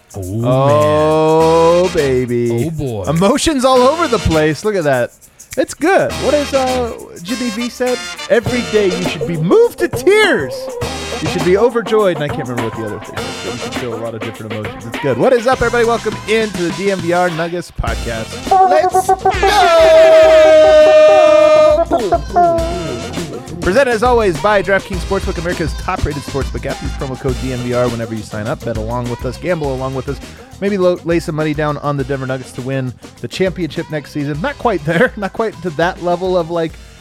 Oh, baby. Oh, boy. Emotions all over the place. Look at that. It's good. What has Jimmy V said? Every day you should be moved to tears. You should be overjoyed. And I can't remember what the other thing is, but you should feel a lot of different emotions. It's good. What is up, everybody? Welcome into the DMVR Nuggets podcast. Let's go! Presented as always by DraftKings Sportsbook, America's top-rated sportsbook app. Use promo code DMVR whenever you sign up. Bet along with us, gamble along with us. Maybe lay some money down on the Denver Nuggets to win the championship next season. Not quite there, not quite to that level of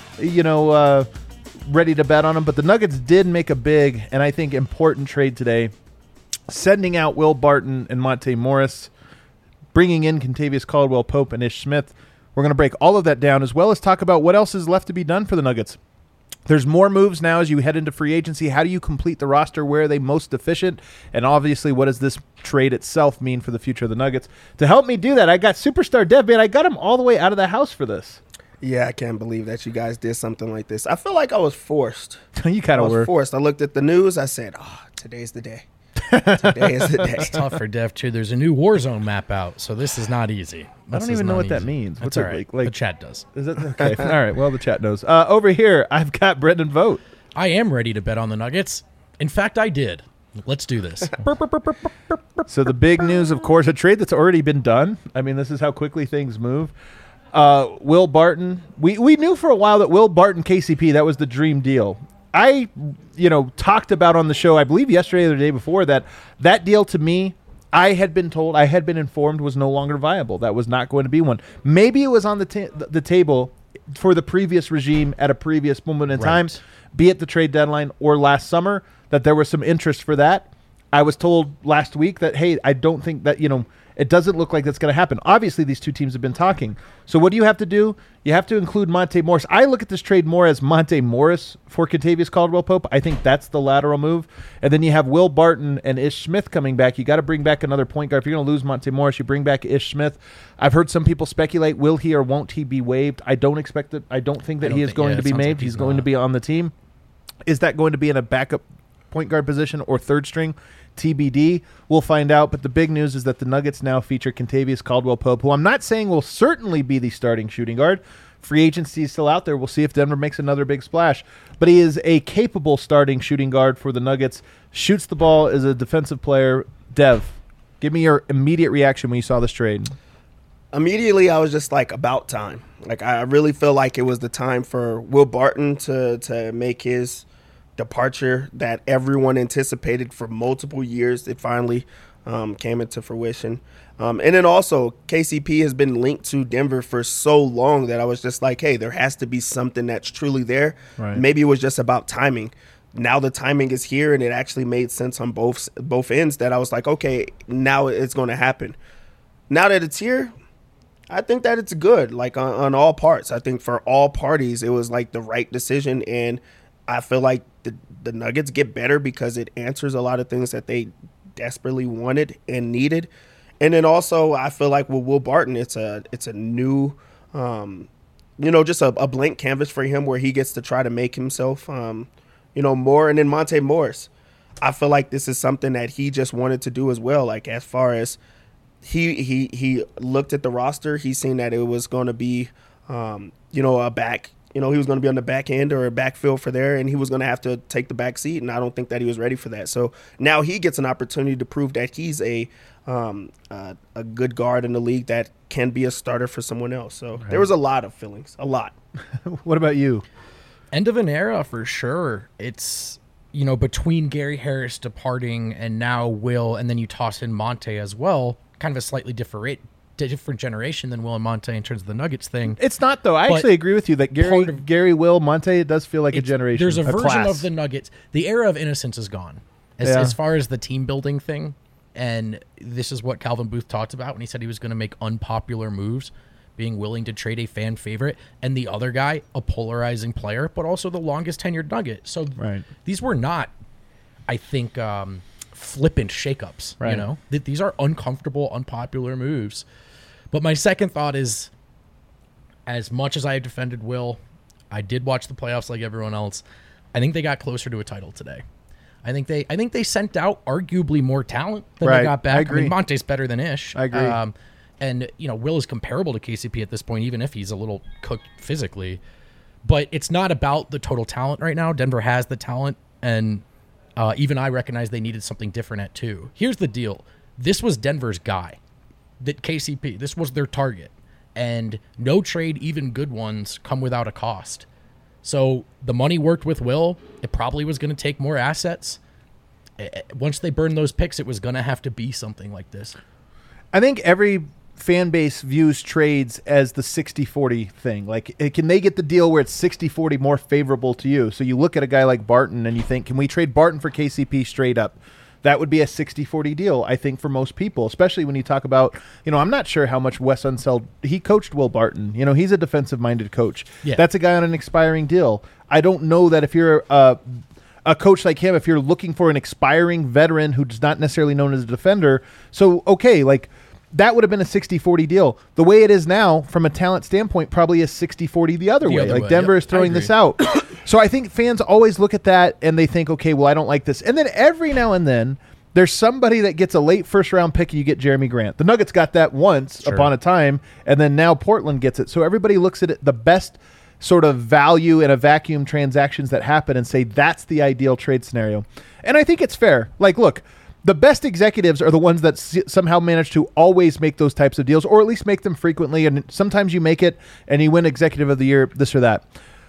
ready to bet on them. But the Nuggets did make a big and I think important trade today, sending out Will Barton and Monte Morris, bringing in Kentavious Caldwell-Pope and Ish Smith. We're going to break all of that down as well as talk about what else is left to be done for the Nuggets. There's more moves now as you head into free agency. How do you complete the roster? Where are they most efficient? And obviously, what does this trade itself mean for the future of the Nuggets? To help me do that, I got Superstar Dev, man. I got him all the way out of the house for this. Yeah, I can't believe that you guys did something like this. I feel like I was forced. You kind of were. Forced. I looked at the news. I said, today's the day. Today is the day. It's tough for Dev, too. There's a new Warzone map out, so this is not easy. I don't even know what that means. That's all right. The chat does. Is it? Okay. All right. Well, the chat knows. Over here, I've got Brendan Vogt. I am ready to bet on the Nuggets. In fact, I did. Let's do this. So the big news, of course, a trade that's already been done. I mean, this is how quickly things move. Will Barton. We knew for a while that Will Barton, KCP, that was the dream deal. I, talked about on the show, I believe yesterday or the day before, that deal to me, I had been informed was no longer viable. That was not going to be one. Maybe it was on the table for the previous regime at a previous moment in time, be it the trade deadline or last summer, that there was some interest for that. I was told last week that, hey, I don't think that, it doesn't look like that's going to happen. Obviously, these two teams have been talking. So what do you have to do? You have to include Monte Morris. I look at this trade more as Monte Morris for Kentavious Caldwell-Pope. I think that's the lateral move. And then you have Will Barton and Ish Smith coming back. You got to bring back another point guard. If you're going to lose Monte Morris, you bring back Ish Smith. I've heard some people speculate, will he or won't he be waived? I don't think that he is going to be waived. He's going to be on the team. Is that going to be in a backup point guard position or third string? TBD. We'll find out. But the big news is that the Nuggets now feature Kentavious Caldwell-Pope, who I'm not saying will certainly be the starting shooting guard. Free agency is still out there. We'll see if Denver makes another big splash. But he is a capable starting shooting guard for the Nuggets. Shoots the ball as a defensive player. Dev, give me your immediate reaction when you saw this trade. Immediately, I was just like, about time. Like, I really feel like it was the time for Will Barton to make his departure that everyone anticipated for multiple years. It finally came into fruition. And then also, KCP has been linked to Denver for so long that I was just like, hey, there has to be something that's truly there. Right. Maybe it was just about timing. Now the timing is here, and it actually made sense on both ends that I was like, okay, now it's going to happen. Now that it's here, I think that it's good, like on all parts. I think for all parties, it was like the right decision, and I feel like the Nuggets get better because it answers a lot of things that they desperately wanted and needed. And then also, I feel like with Will Barton, it's a new, just a blank canvas for him where he gets to try to make himself, more. And then Monte Morris, I feel like this is something that he just wanted to do as well. Like, as far as he looked at the roster, he's seen that it was going to be, a back. He was going to be on the back end or a backfield for there, and he was going to have to take the back seat, and I don't think that he was ready for that. So now he gets an opportunity to prove that he's a good guard in the league that can be a starter for someone else. So There was a lot of feelings, a lot. What about you? End of an era for sure. It's, between Gary Harris departing and now Will, and then you toss in Monte as well, kind of a slightly different generation than Will and Monte in terms of the Nuggets thing. It's not, though. I actually agree with you that Gary, Will, Monte, it does feel like a generation. There's a version class of the Nuggets. The era of innocence is gone as far as the team building thing. And this is what Calvin Booth talked about when he said he was going to make unpopular moves, being willing to trade a fan favorite, and the other guy, a polarizing player, but also the longest tenured Nugget. So these were not, I think, flippant shakeups. Right. These are uncomfortable, unpopular moves. But my second thought is, as much as I have defended Will, I did watch the playoffs like everyone else. I think they got closer to a title today. I think they sent out arguably more talent than Right. they got back. I agree. mean, Monte's better than Ish. I agree. And Will is comparable to KCP at this point, even if he's a little cooked physically. But it's not about the total talent right now. Denver has the talent, and even I recognize they needed something different at 2. Here's the deal. This was Denver's guy. That KCP, this was their target. And no trade, even good ones, come without a cost. So the money worked with Will. It probably was going to take more assets. Once they burned those picks, it was going to have to be something like this. I think every fan base views trades as the 60-40 thing. Like, can they get the deal where it's 60-40 more favorable to you? So you look at a guy like Barton and you think, can we trade Barton for KCP straight up? That would be a 60-40 deal, I think, for most people, especially when you talk about, I'm not sure how much Wes Unseld, he coached Will Barton. He's a defensive-minded coach. Yeah. That's a guy on an expiring deal. I don't know that if you're a coach like him, if you're looking for an expiring veteran who's not necessarily known as a defender, so, okay, like, that would have been a 60-40 deal. The way it is now, from a talent standpoint, probably is 60-40 the other way. Like, Denver is throwing this out. So I think fans always look at that and they think, okay, well, I don't like this. And then every now and then, there's somebody that gets a late first-round pick and you get Jeremy Grant. The Nuggets got that once upon a time, and then now Portland gets it. So everybody looks at it, the best sort of value in a vacuum transactions that happen and say that's the ideal trade scenario. And I think it's fair. Like, look, the best executives are the ones that somehow manage to always make those types of deals, or at least make them frequently. And sometimes you make it and you win Executive of the Year, this or that.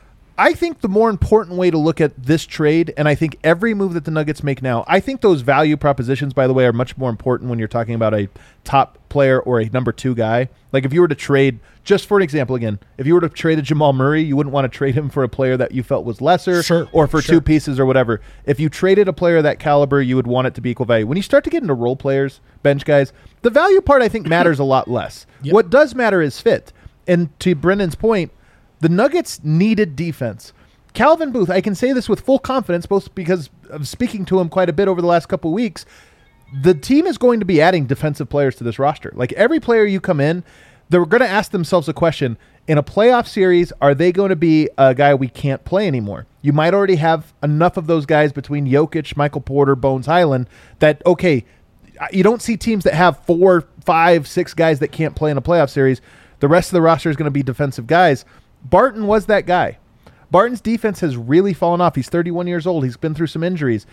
I think the more important way to look at this trade, and I think every move that the Nuggets make now, I think those value propositions, by the way, are much more important when you're talking about a top player or a number 2 guy. Like, if you were to trade, just for an example again, if you were to trade a Jamal Murray, you wouldn't want to trade him for a player that you felt was lesser or for 2 pieces or whatever. If you traded a player of that caliber, you would want it to be equal value. When you start to get into role players, bench guys, the value part, I think, matters a lot less. Yep. What does matter is fit. And to Brendan's point, the Nuggets needed defense. Calvin Booth, I can say this with full confidence, both because of speaking to him quite a bit over the last couple of weeks. The team is going to be adding defensive players to this roster. Like, every player you come in, they're going to ask themselves a question. In a playoff series, are they going to be a guy we can't play anymore? You might already have enough of those guys between Jokic, Michael Porter, Bones Highland that, okay, you don't see teams that have 4, 5, 6 guys that can't play in a playoff series. The rest of the roster is going to be defensive guys. Barton was that guy. Barton's defense has really fallen off. He's 31 years old. He's been through some injuries.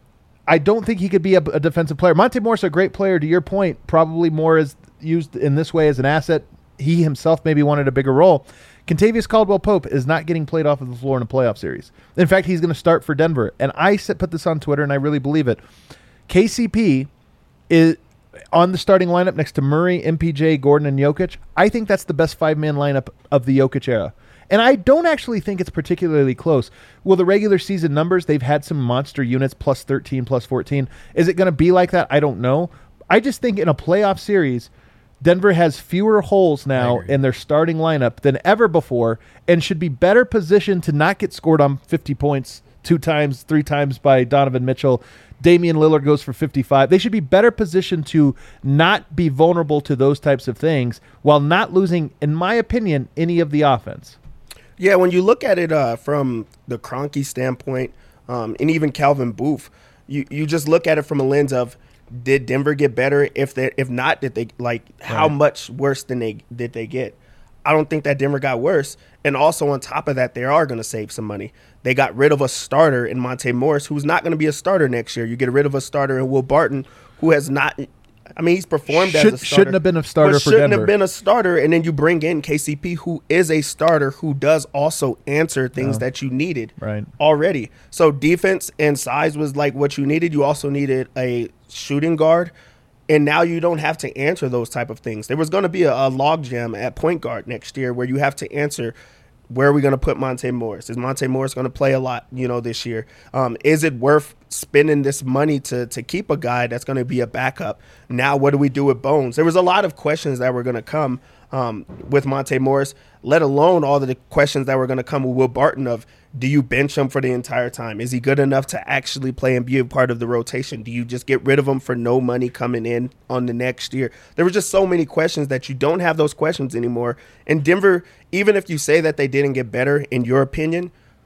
I don't think he could be a defensive player. Monte Morris, a great player, to your point, probably more is used in this way as an asset. He himself maybe wanted a bigger role. Kentavious Caldwell-Pope is not getting played off of the floor in a playoff series. In fact, he's going to start for Denver. And I put this on Twitter, and I really believe it. KCP is on the starting lineup next to Murray, MPJ, Gordon, and Jokic. I think that's the best 5-man lineup of the Jokic era. And I don't actually think it's particularly close. Well, the regular season numbers, they've had some monster units, plus 13, plus 14. Is it going to be like that? I don't know. I just think in a playoff series, Denver has fewer holes now in their starting lineup than ever before and should be better positioned to not get scored on 50 points 2 times, 3 times by Donovan Mitchell. Damian Lillard goes for 55. They should be better positioned to not be vulnerable to those types of things while not losing, in my opinion, any of the offense. Yeah, when you look at it from the Kroenke standpoint, and even Calvin Booth, you just look at it from a lens of, did Denver get better? If not, did they how much worse did they get? I don't think that Denver got worse. And also on top of that, they are going to save some money. They got rid of a starter in Monte Morris, who's not going to be a starter next year. You get rid of a starter in Will Barton, who has not. I mean, he's performed as a starter. Shouldn't have been a starter for Denver. Shouldn't have been a starter, and then you bring in KCP, who is a starter, who does also answer things that you needed already. So defense and size was like what you needed. You also needed a shooting guard, and now you don't have to answer those type of things. There was going to be a logjam at point guard next year where you have to answer, where are we going to put Monte Morris? Is Monte Morris going to play a lot, this year? Is it worth spending this money to keep a guy that's going to be a backup? Now, what do we do with Bones? There was a lot of questions that were going to come with Monte Morris, let alone all of the questions that were going to come with Will Barton of, do you bench him for the entire time? Is he good enough to actually play and be a part of the rotation? Do you just get rid of him for no money coming in on the next year? There were just so many questions that you don't have those questions anymore. And Denver, even if you say that they didn't get better, in your opinion,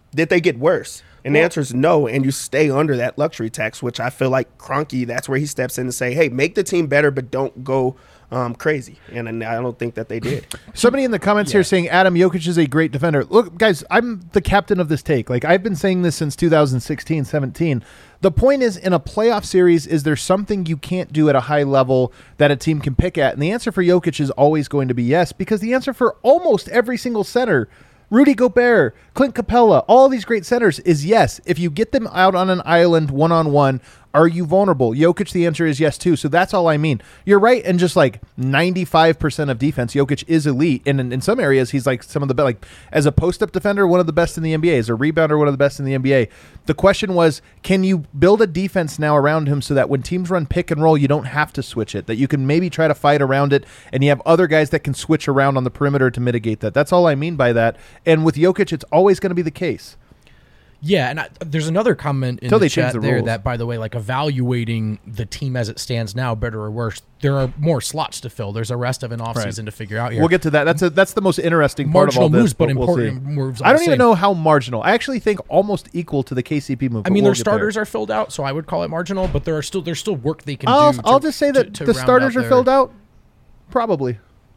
did they get worse? And the answer is no, and you stay under that luxury tax, which I feel like Kroenke, that's where he steps in to say, hey, make the team better, but don't go crazy. And I don't think that they did. Somebody in the comments here saying Adam Jokic is a great defender. Look, guys, I'm the captain of this take. Like, I've been saying this since 2016, 17. The point is, in a playoff series, is there something you can't do at a high level that a team can pick at? And the answer for Jokic is always going to be yes, because the answer for almost every single center, Rudy Gobert, Clint Capella, all these great centers, is yes. If you get them out on an island one-on-one, are you vulnerable? Jokic, the answer is yes, too. So that's all I mean. You're right, and just like 95% of defense, Jokic is elite. And in some areas, he's like some of the best. Like, as a post-up defender, one of the best in the NBA. As a rebounder, one of the best in the NBA. The question was, can you build a defense now around him so that when teams run pick and roll, you don't have to switch it, that you can maybe try to fight around it, and you have other guys that can switch around on the perimeter to mitigate that. That's all I mean by that. And with Jokic, it's always going to be the case. Yeah, and there's another comment in the chat there that, by the way, like evaluating the team as it stands now, better or worse, there are more slots to fill. There's a rest of an offseason to figure out here. We'll get to that. That's the most interesting part of all this. Marginal moves, but important moves. I don't even know how marginal. I actually think almost equal to the KCP move. I mean, their starters are filled out, so I would call it marginal, but there's still work they can do. I'll just say that the starters are filled out. Probably.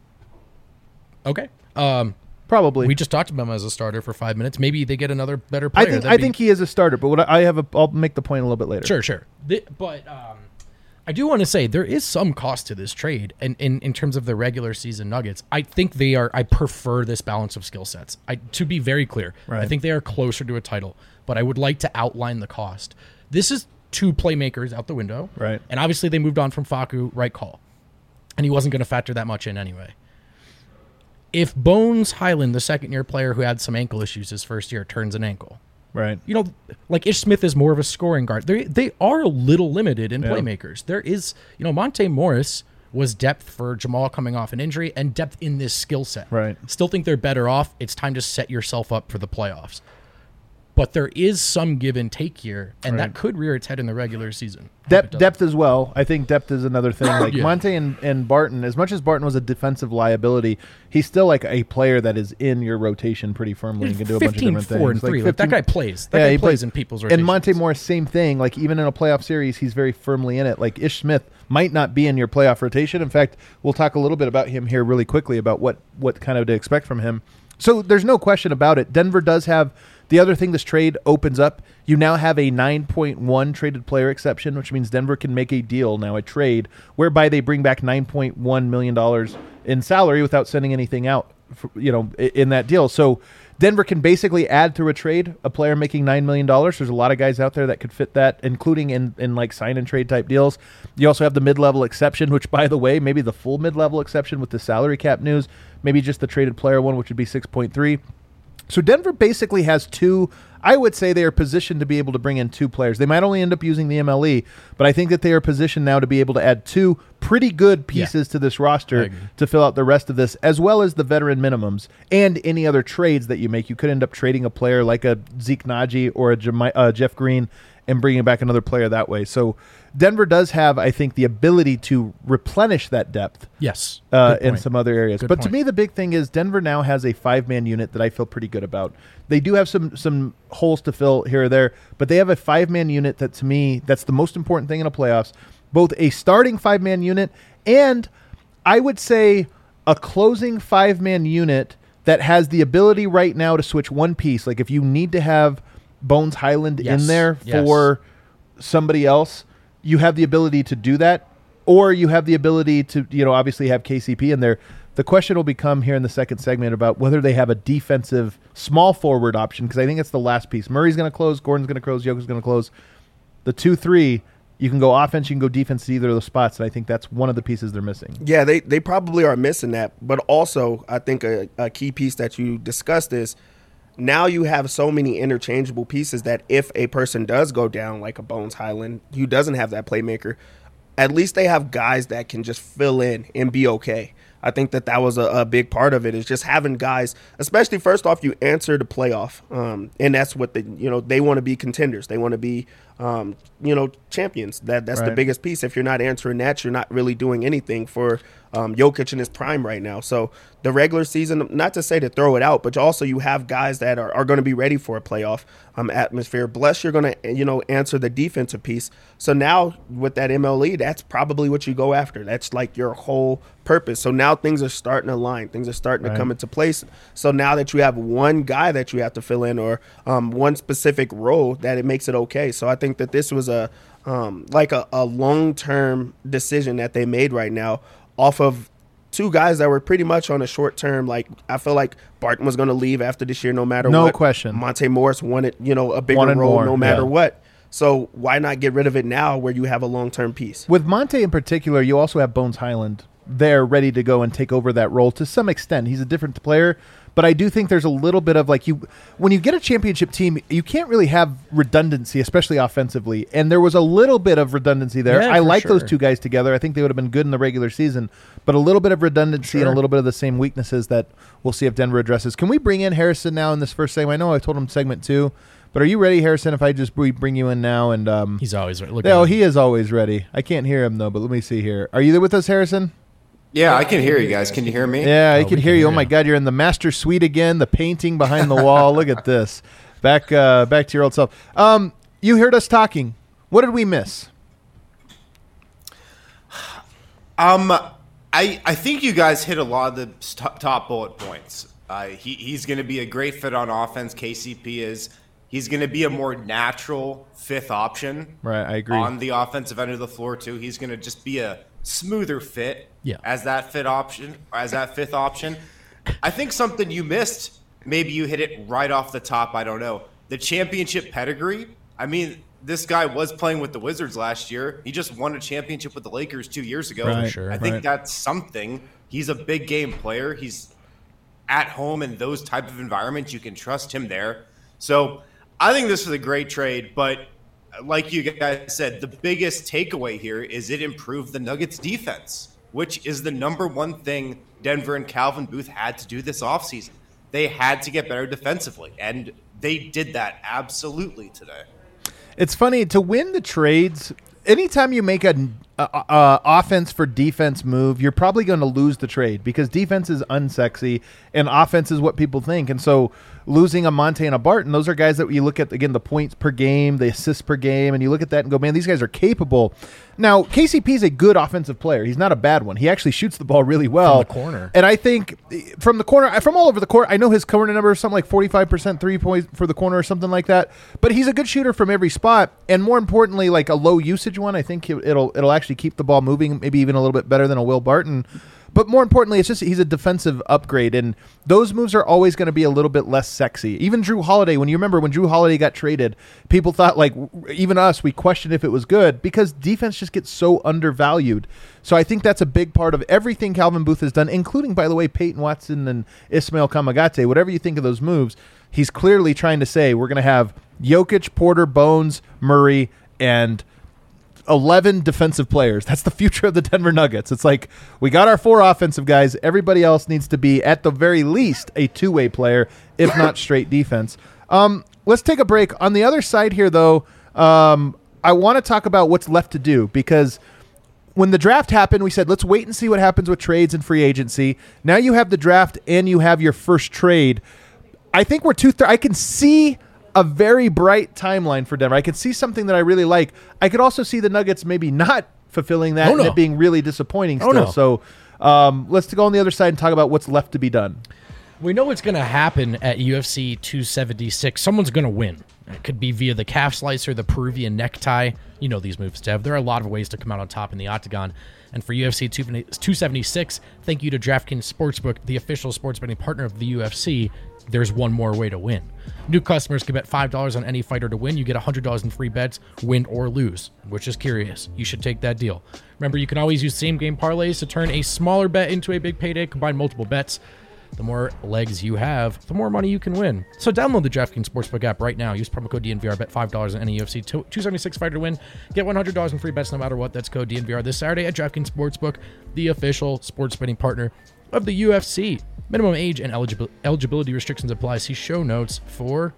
Okay. Probably. We just talked about him as a starter for 5 minutes. Maybe they get another better player. I think he is a starter, but I'll make the point a little bit later. Sure. But I do want to say there is some cost to this trade, and in terms of the regular season Nuggets, I think I prefer this balance of skill sets. To be very clear, I think they are closer to a title, but I would like to outline the cost. This is 2 playmakers out the window, right? And obviously they moved on from Facu, right call, and he wasn't going to factor that much in anyway. If Bones Highland, the second-year player who had some ankle issues his first year, turns an ankle, right? You know, like Ish Smith is more of a scoring guard. They are a little limited in playmakers. There is, Monte Morris was depth for Jamal coming off an injury and depth in this skill set. Right. Still think they're better off. It's time to set yourself up for the playoffs. But there is some give and take here, and that could rear its head in the regular season. Depth as well. I think depth is another thing. Like Monte and Barton, as much as Barton was a defensive liability, he's still like a player that is in your rotation pretty firmly and can do a bunch of different things. 15, 4, and 3. Like that guy plays. That guy plays in people's rotations. And Monte Morris, same thing. Like even in a playoff series, he's very firmly in it. Like Ish Smith might not be in your playoff rotation. In fact, we'll talk a little bit about him here really quickly about what kind of to expect from him. So there's no question about it. Denver does have the other thing this trade opens up. You now have a 9.1 traded player exception, which means Denver can make a deal now, a trade, whereby they bring back $9.1 million in salary without sending anything out, in that deal. So Denver can basically add to a trade a player making $9 million. There's a lot of guys out there that could fit that, including in like sign and trade type deals. You also have the mid-level exception, which, by the way, maybe the full mid-level exception with the salary cap news, maybe just the traded player one, which would be 6.3. So Denver basically has 2. I would say they are positioned to be able to bring in 2 players. They might only end up using the MLE, but I think that they are positioned now to be able to add 2 pretty good pieces to this roster to fill out the rest of this, as well as the veteran minimums and any other trades that you make. You could end up trading a player like a Zeke Naji or a Jeff Green and bringing back another player that way. So Denver does have, I think, the ability to replenish that depth. Yes. In some other areas. But to me, the big thing is Denver now has a 5-man unit that I feel pretty good about. They do have some holes to fill here or there, but they have a 5-man unit that, to me, that's the most important thing in a playoffs. Both a starting 5-man unit and, I would say, a closing 5-man unit that has the ability right now to switch one piece. Like if you need to have Bones Highland in there for somebody else, you have the ability to do that, or you have the ability to, obviously have KCP in there. The question will become here in the second segment about whether they have a defensive small forward option, because I think it's the last piece. Murray's going to close, Gordon's going to close, Jokic's going to close. The 2-3, you can go offense, you can go defense to either of those spots, and I think that's one of the pieces they're missing. Yeah, they probably are missing that, but also I think a key piece that you discussed is now you have so many interchangeable pieces that if a person does go down, like a Bones Highland, who doesn't have that playmaker, at least they have guys that can just fill in and be okay. I think that was a big part of it, is just having guys, especially first off, you answer the playoff. And that's what they want to be contenders. They want to be, champions. That's the biggest piece. If you're not answering that, you're not really doing anything for Jokic in his prime right now. So the regular season, not to say to throw it out, but also you have guys that are going to be ready for a playoff atmosphere. Plus, you're going to, answer the defensive piece. So now with that MLE, that's probably what you go after. That's like your whole purpose. So now things are starting to align. Things are starting to come into place. So now that you have one guy that you have to fill in or one specific role, that it makes it okay. So I think that this was a long-term decision that they made right now off of two guys that were pretty much on a short term. Like, I feel like Barton was going to leave after this year no matter what. No question. Monte Morris wanted, a bigger role no matter what. So why not get rid of it now where you have a long-term piece? With Monte in particular, you also have Bones Highland there ready to go and take over that role to some extent. He's a different player, but I do think there's a little bit of when you get a championship team, you can't really have redundancy, especially offensively. And there was a little bit of redundancy there. I like those two guys together. I think they would have been good in the regular season, but a little bit of redundancy and a little bit of the same weaknesses that we'll see if Denver addresses. Can we bring in Harrison now in this first segment? I know I told him segment 2, but are you ready, Harrison, if I just bring you in now? And he's always ready. He is always ready. I can't hear him, though, but let me see here. Are you there with us, Harrison? Yeah, I can hear you guys. Can you hear me? Yeah, I can hear you. Oh, my God, you're in the master suite again, the painting behind the wall. Look at this. Back to your old self. You heard us talking. What did we miss? I think you guys hit a lot of the top bullet points. He's going to be a great fit on offense. KCP is. He's going to be a more natural fifth option. Right, I agree. On the offensive end of the floor, too. He's going to just be a smoother fit as that fifth option. I think something you missed, maybe you hit it right off the top, I don't know. The championship pedigree. I mean, this guy was playing with the Wizards last year. He just won a championship with the Lakers 2 years ago. Right, I think that's something. He's a big game player. He's at home in those type of environments. You can trust him there. So I think this is a great trade, but like you guys said, the biggest takeaway here is it improved the Nuggets defense, which is the number one thing Denver and Calvin Booth had to do this offseason. They had to get better defensively, and they did that absolutely today. It's funny, to win the trades, anytime you make an offense for defense move, you're probably going to lose the trade because defense is unsexy and offense is what people think. And so losing a Monte and a Barton, those are guys that you look at, again, the points per game, the assists per game, and you look at that and go, man, these guys are capable. Now, KCP is a good offensive player. He's not a bad one. He actually shoots the ball really well. From the corner. And I think from the corner, from all over the court, I know his corner number is something like 45% 3-point for the corner or something like that. But he's a good shooter from every spot. And more importantly, like a low usage one, I think it'll actually keep the ball moving, maybe even a little bit better than a Will Barton. But more importantly, it's just he's a defensive upgrade, and those moves are always going to be a little bit less sexy. Even Drew Holiday, when Drew Holiday got traded, people thought, like, even us, we questioned if it was good because defense just gets so undervalued. So I think that's a big part of everything Calvin Booth has done, including, by the way, Peyton Watson and Ismail Kamagate. Whatever you think of those moves, he's clearly trying to say we're going to have Jokic, Porter, Bones, Murray, and 11 defensive players. That's the future of the Denver Nuggets. It's like we got our 4 offensive guys. Everybody else needs to be, at the very least, a two-way player, if not straight defense. Let's take a break. On the other side here, though, I want to talk about what's left to do because when the draft happened, we said, let's wait and see what happens with trades and free agency. Now you have the draft and you have your first trade. I think we're I can see a very bright timeline for Denver. I could see something that I really like. I could also see the Nuggets maybe not fulfilling that and it being really disappointing still. So let's go on the other side and talk about what's left to be done. We know what's going to happen at UFC 276. Someone's going to win. It could be via the calf slicer, the Peruvian necktie. You know these moves, Dev. There are a lot of ways to come out on top in the octagon. And for UFC 276, thank you to DraftKings Sportsbook, the official sports betting partner of the UFC. There's one more way to win. New customers can bet $5 on any fighter to win. You get $100 in free bets, win or lose, which is curious. You should take that deal. Remember, you can always use same-game parlays to turn a smaller bet into a big payday. Combine multiple bets. The more legs you have, the more money you can win. So download the DraftKings Sportsbook app right now. Use promo code DNVR. Bet $5 on any UFC 276 fighter to win. Get $100 in free bets no matter what. That's code DNVR this Saturday at DraftKings Sportsbook, the official sports betting partner of the UFC. Minimum age and eligibility restrictions apply. See show notes for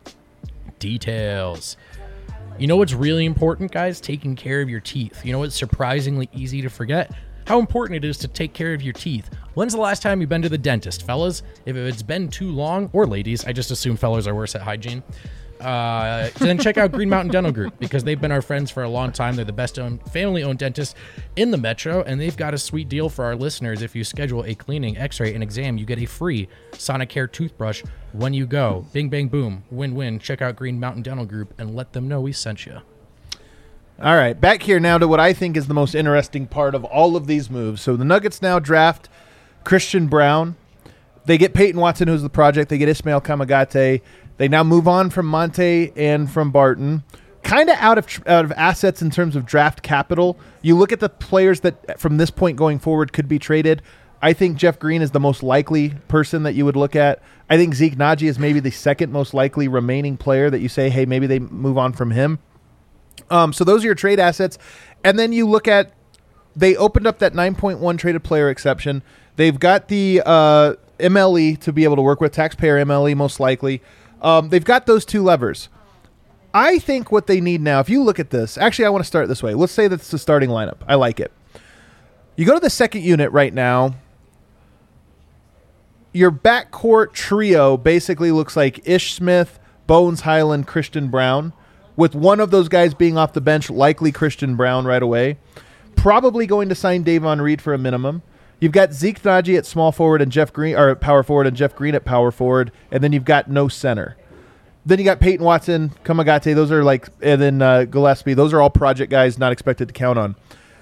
details. You know what's really important, guys? Taking care of your teeth. You know what's surprisingly easy to forget? how important it is to take care of your teeth. When's the last time you've been to the dentist, fellas? If it's been too long, or ladies, I just assume fellas are worse at hygiene. Then check out Green Mountain Dental Group, because they've been our friends for a long time. They're the best family-owned dentist in the metro, and they've got a sweet deal for our listeners. If you schedule a cleaning, x-ray, and exam, you get a free Sonicare toothbrush when you go. Bing, bang, boom. Win-win. Check out Green Mountain Dental Group and let them know we sent you. All right, back here now to what I think is the most interesting part of all of these moves. So the Nuggets now draft Christian Braun. They get Peyton Watson, who's the project. They get Ismail Kamagate. They now move on from Monte and from Barton. Kind of out of assets in terms of draft capital. You look at the players that from this point going forward could be traded. I think Jeff Green is the most likely person that you would look at. I think Zeke Naji is maybe the second most likely remaining player that you say, hey, maybe they move on from him. So those are your trade assets. And then you look at, they opened up that 9.1 traded player exception. They've got the MLE to be able to work with, taxpayer MLE most likely. They've got those two levers. I think what they need now, if you look at this, actually I want to start this way. Let's say that's the starting lineup. I like it. You go to the second unit right now. Your backcourt trio basically looks like Ish Smith, Bones Highland, Christian Braun, with one of those guys being off the bench, likely Christian Braun right away. Probably going to sign Davon Reed for a minimum. You've got Zeke Naji at small forward and Jeff Green, or at power forward, and Jeff Green at power forward, and then you've got no center. Then you got Peyton Watson, Kamagate, those are like, and then Gillespie. Those are all project guys not expected to count on.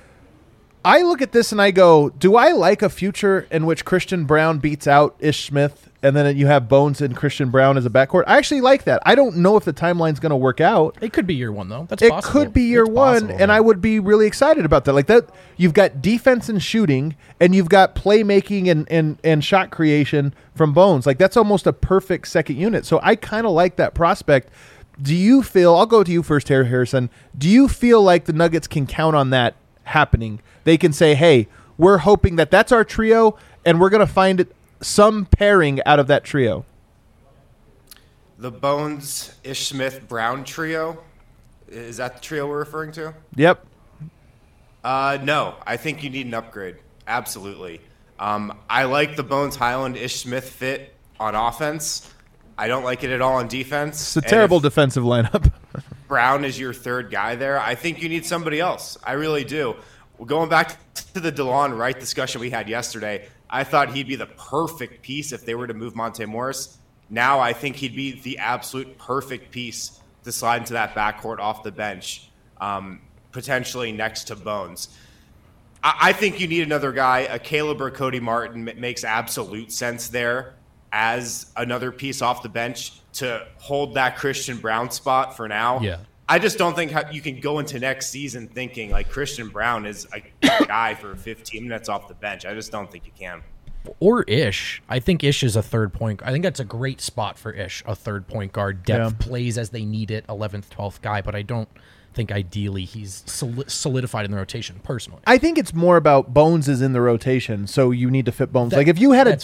I look at this and I go, do I like a future in which Christian Braun beats out Ish Smith, and then you have Bones and Christian Braun as a backcourt? I actually like that. I don't know if the timeline's going to work out. It could be year one, though. That's it possible. Could be year one, possible, and I would be really excited about that. Like that, you've got defense and shooting, and you've got playmaking and shot creation from Bones. Like that's almost a perfect second unit. So I kind of like that prospect. Do you feel? I'll go to you first, Harrison. Do you feel like the Nuggets can count on that happening? They can say, hey, we're hoping that that's our trio, and we're going to find some pairing out of that trio. The Bones, Ish Smith, Brown trio? Is that the trio we're referring to? Yep. No, I think you need an upgrade. Absolutely. I like the Bones Highland, Ish Smith fit on offense. I don't like it at all on defense. It's a terrible defensive lineup. Brown is your third guy there. I think you need somebody else. I really do. Going back to the DeLon Wright discussion we had yesterday, I thought he'd be the perfect piece if they were to move Monte Morris. Now I think he'd be the absolute perfect piece to slide into that backcourt off the bench, potentially next to Bones. I think you need another guy. A Caleb or Cody Martin makes absolute sense there as another piece off the bench to hold that Christian Braun spot for now. Yeah. I just don't think you can go into next season thinking like Christian Braun is a guy for 15 minutes off the bench. I just don't think you can. Or Ish. I think Ish is a third point. I think that's a great spot for Ish, a third point guard. Depth plays as they need it, 11th, 12th guy, but I don't think ideally he's solidified in the rotation personally. I think it's more about Bones is in the rotation, so you need to fit Bones. Like if you had a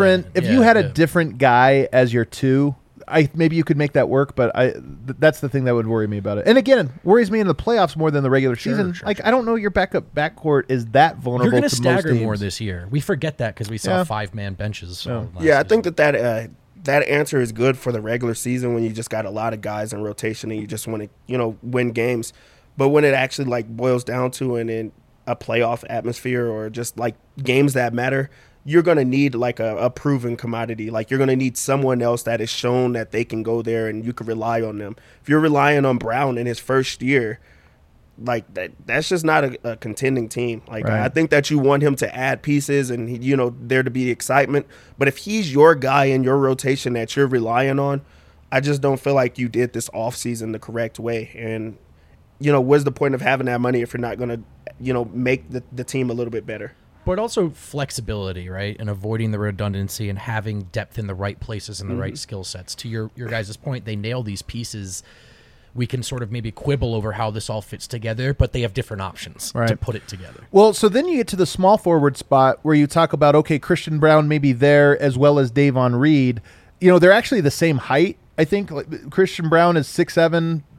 different guy as your two, maybe you could make that work, but that's the thing that would worry me about it. And again, worries me in the playoffs more than the regular season. Sure. I don't know your backcourt is that vulnerable. You're going to stagger more this year. We forget that because we saw 5-man benches. I think that answer is good for the regular season when you just got a lot of guys in rotation and you just want to win games. But when it actually boils down to in a playoff atmosphere or just games that matter, you're going to need a proven commodity. You're going to need someone else that has shown that they can go there and you can rely on them. If you're relying on Brown in his first year, that's just not a contending team. Right. I think that you want him to add pieces and there to be excitement. But if he's your guy in your rotation that you're relying on, I just don't feel like you did this offseason the correct way. And what's the point of having that money if you're not going to make the team a little bit better? But also flexibility, right? And avoiding the redundancy and having depth in the right places and the right skill sets. To your guys' point, they nail these pieces. We can sort of maybe quibble over how this all fits together, but they have different options to put it together. Well, so then you get to the small forward spot where you talk about, okay, Christian Braun may be there as well as Davon Reed. They're actually the same height. I think Christian Braun is 6'7",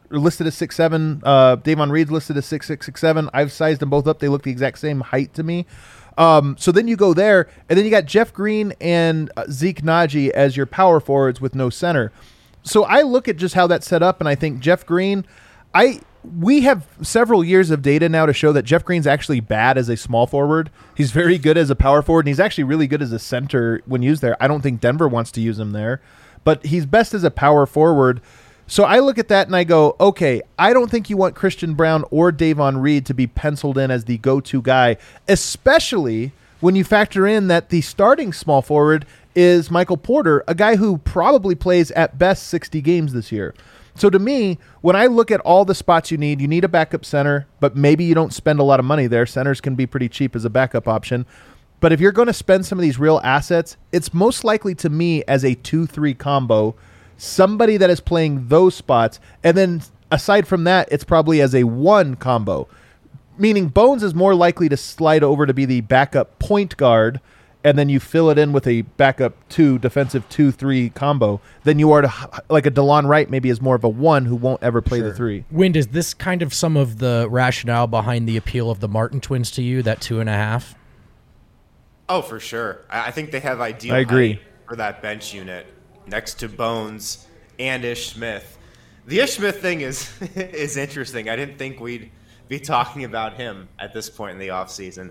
listed as 6'7". Davon Reed's listed as 6'6", 6'7". I've sized them both up. They look the exact same height to me. So then you go there, and then you got Jeff Green and Zeke Naji as your power forwards with no center. So I look at just how that's set up, and I think Jeff Green, we have several years of data now to show that Jeff Green's actually bad as a small forward. He's very good as a power forward, and he's actually really good as a center when used there. I don't think Denver wants to use him there, but he's best as a power forward. So I look at that and I go, okay, I don't think you want Christian Braun or Davon Reed to be penciled in as the go-to guy, especially when you factor in that the starting small forward is Michael Porter, a guy who probably plays at best 60 games this year. So to me, when I look at all the spots you need a backup center, but maybe you don't spend a lot of money there. Centers can be pretty cheap as a backup option. But if you're going to spend some of these real assets, it's most likely to me as a 2-3 combo, somebody that is playing those spots. And then aside from that, it's probably as a 1 combo, meaning Bones is more likely to slide over to be the backup point guard, and then you fill it in with a backup 2 defensive 2-3 combo than you are to like a DeLon Wright maybe is more of a 1 who won't ever play the 3. Wind, is this kind of some of the rationale behind the appeal of the Martin twins to you, that 2.5? Oh, for sure. I think they have ideal I agree. height for that bench unit next to Bones and Ish Smith. The Ish Smith thing is is interesting. I didn't think we'd be talking about him at this point in the offseason.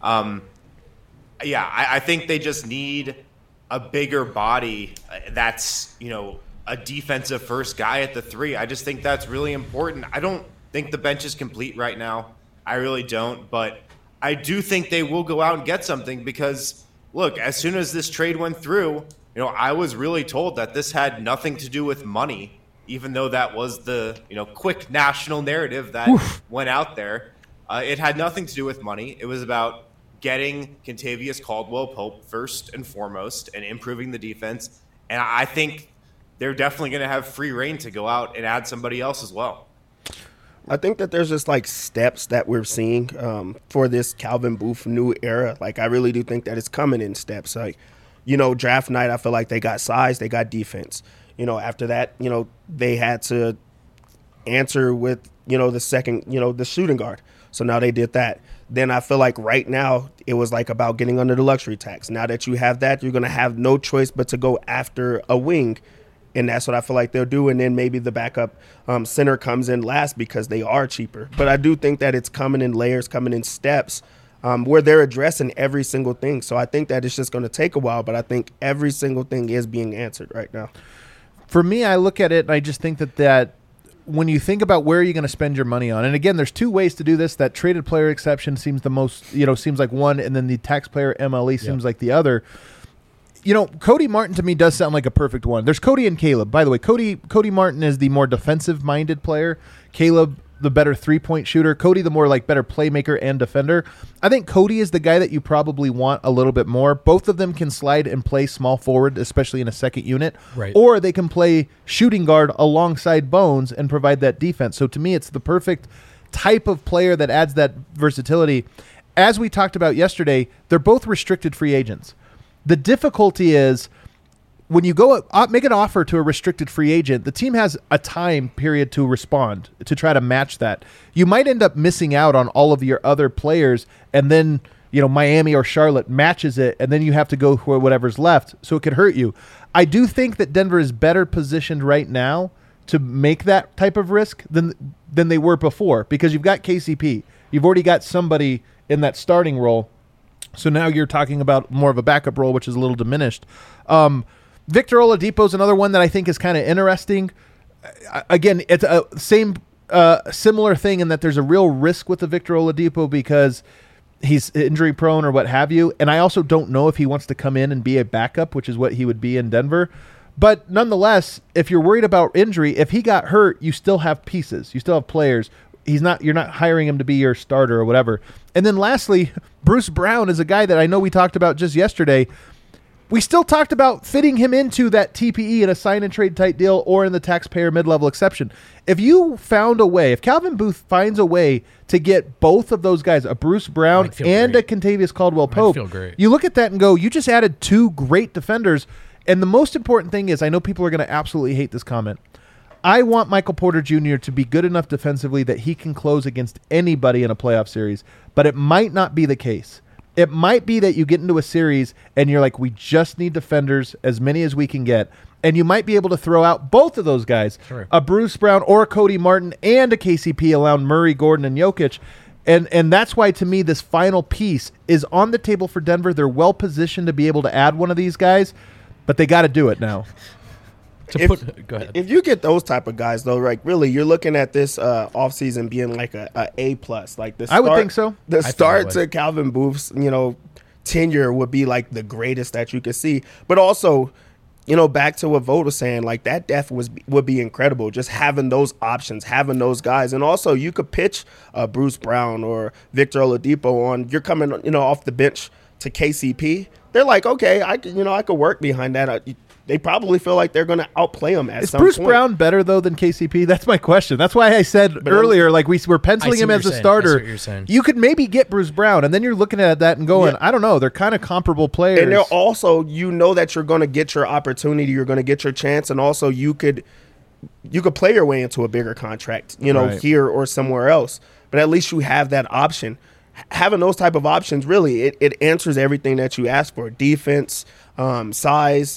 I think they just need a bigger body that's, a defensive first guy at the 3. I just think that's really important. I don't think the bench is complete right now. I really don't, but I do think they will go out and get something because, look, as soon as this trade went through, I was really told that this had nothing to do with money, even though that was the, quick national narrative that went out there. It had nothing to do with money. It was about getting Kentavious Caldwell-Pope first and foremost and improving the defense. And I think they're definitely going to have free reign to go out and add somebody else as well. I think that there's just like steps that we're seeing for this Calvin Booth new era. Like, I really do think that it's coming in steps. Like, draft night, I feel like they got size, they got defense. After that, they had to answer with, the second, the shooting guard. So now they did that. Then I feel like right now it was like about getting under the luxury tax. Now that you have that, you're going to have no choice but to go after a wing. And that's what I feel like they'll do. And then maybe the backup center comes in last because they are cheaper. But I do think that it's coming in layers, coming in steps where they're addressing every single thing. So I think that it's just going to take a while. But I think every single thing is being answered right now. For me, I look at it and I just think that when you think about where you're going to spend your money on, and again, there's 2 ways to do this. That traded player exception seems the most, seems like one, and then the taxpayer MLE seems like the other. Cody Martin to me does sound like a perfect one. There's Cody and Caleb. By the way, Cody Martin is the more defensive-minded player. Caleb, the better three-point shooter. Cody, the more like better playmaker and defender. I think Cody is the guy that you probably want a little bit more. Both of them can slide and play small forward, especially in a second unit. Right. Or they can play shooting guard alongside Bones and provide that defense. So to me, it's the perfect type of player that adds that versatility. As we talked about yesterday, they're both restricted free agents. The difficulty is when you go make an offer to a restricted free agent, the team has a time period to respond to try to match that. You might end up missing out on all of your other players, and then Miami or Charlotte matches it, and then you have to go for whatever's left, so it could hurt you. I do think that Denver is better positioned right now to make that type of risk than they were before because you've got KCP. You've already got somebody in that starting role. So now you're talking about more of a backup role, which is a little diminished. Victor Oladipo is another one that I think is kind of interesting. Again, it's a similar thing in that there's a real risk with the Victor Oladipo because he's injury prone or what have you. And I also don't know if he wants to come in and be a backup, which is what he would be in Denver. But nonetheless, if you're worried about injury, if he got hurt, you still have pieces. You still have players. You're not hiring him to be your starter or whatever. And then lastly, Bruce Brown is a guy that I know we talked about just yesterday. We still talked about fitting him into that TPE in a sign and trade type deal or in the taxpayer mid-level exception. If you found a way, if Calvin Booth finds a way to get both of those guys, a Bruce Brown and a Kentavious Caldwell-Pope, you look at that and go, you just added 2 great defenders. And the most important thing is, I know people are going to absolutely hate this comment. I want Michael Porter Jr. to be good enough defensively that he can close against anybody in a playoff series, but it might not be the case. It might be that you get into a series and you're like, we just need defenders, as many as we can get, and you might be able to throw out both of those guys, Sure. a Bruce Brown or a Cody Martin and a KCP around Murray, Gordon, and Jokic. And that's why, to me, this final piece is on the table for Denver. They're well positioned to be able to add one of these guys, but they got to do it now. Go ahead. If you get those type of guys, though, like really, you're looking at this offseason being like a plus. Like the I would think so. The think start it to would. Calvin Booth's, tenure would be like the greatest that you could see. But also, back to what Vode was saying, like that depth would be incredible. Just having those options, having those guys, and also you could pitch Bruce Brown or Victor Oladipo on. You're coming, off the bench to KCP. They're like, okay, I could work behind that. They probably feel like they're going to outplay him at some point. Is Bruce Brown better, though, than KCP? That's my question. That's why I said earlier, like we were penciling him as a starter. I see what you're saying. You could maybe get Bruce Brown, and then you're looking at that and going, I don't know. They're kind of comparable players. And they're also, that you're going to get your opportunity. You're going to get your chance. And also you could play your way into a bigger contract, Right. here or somewhere else. But at least you have that option. Having those type of options, really, it answers everything that you ask for. Defense, size,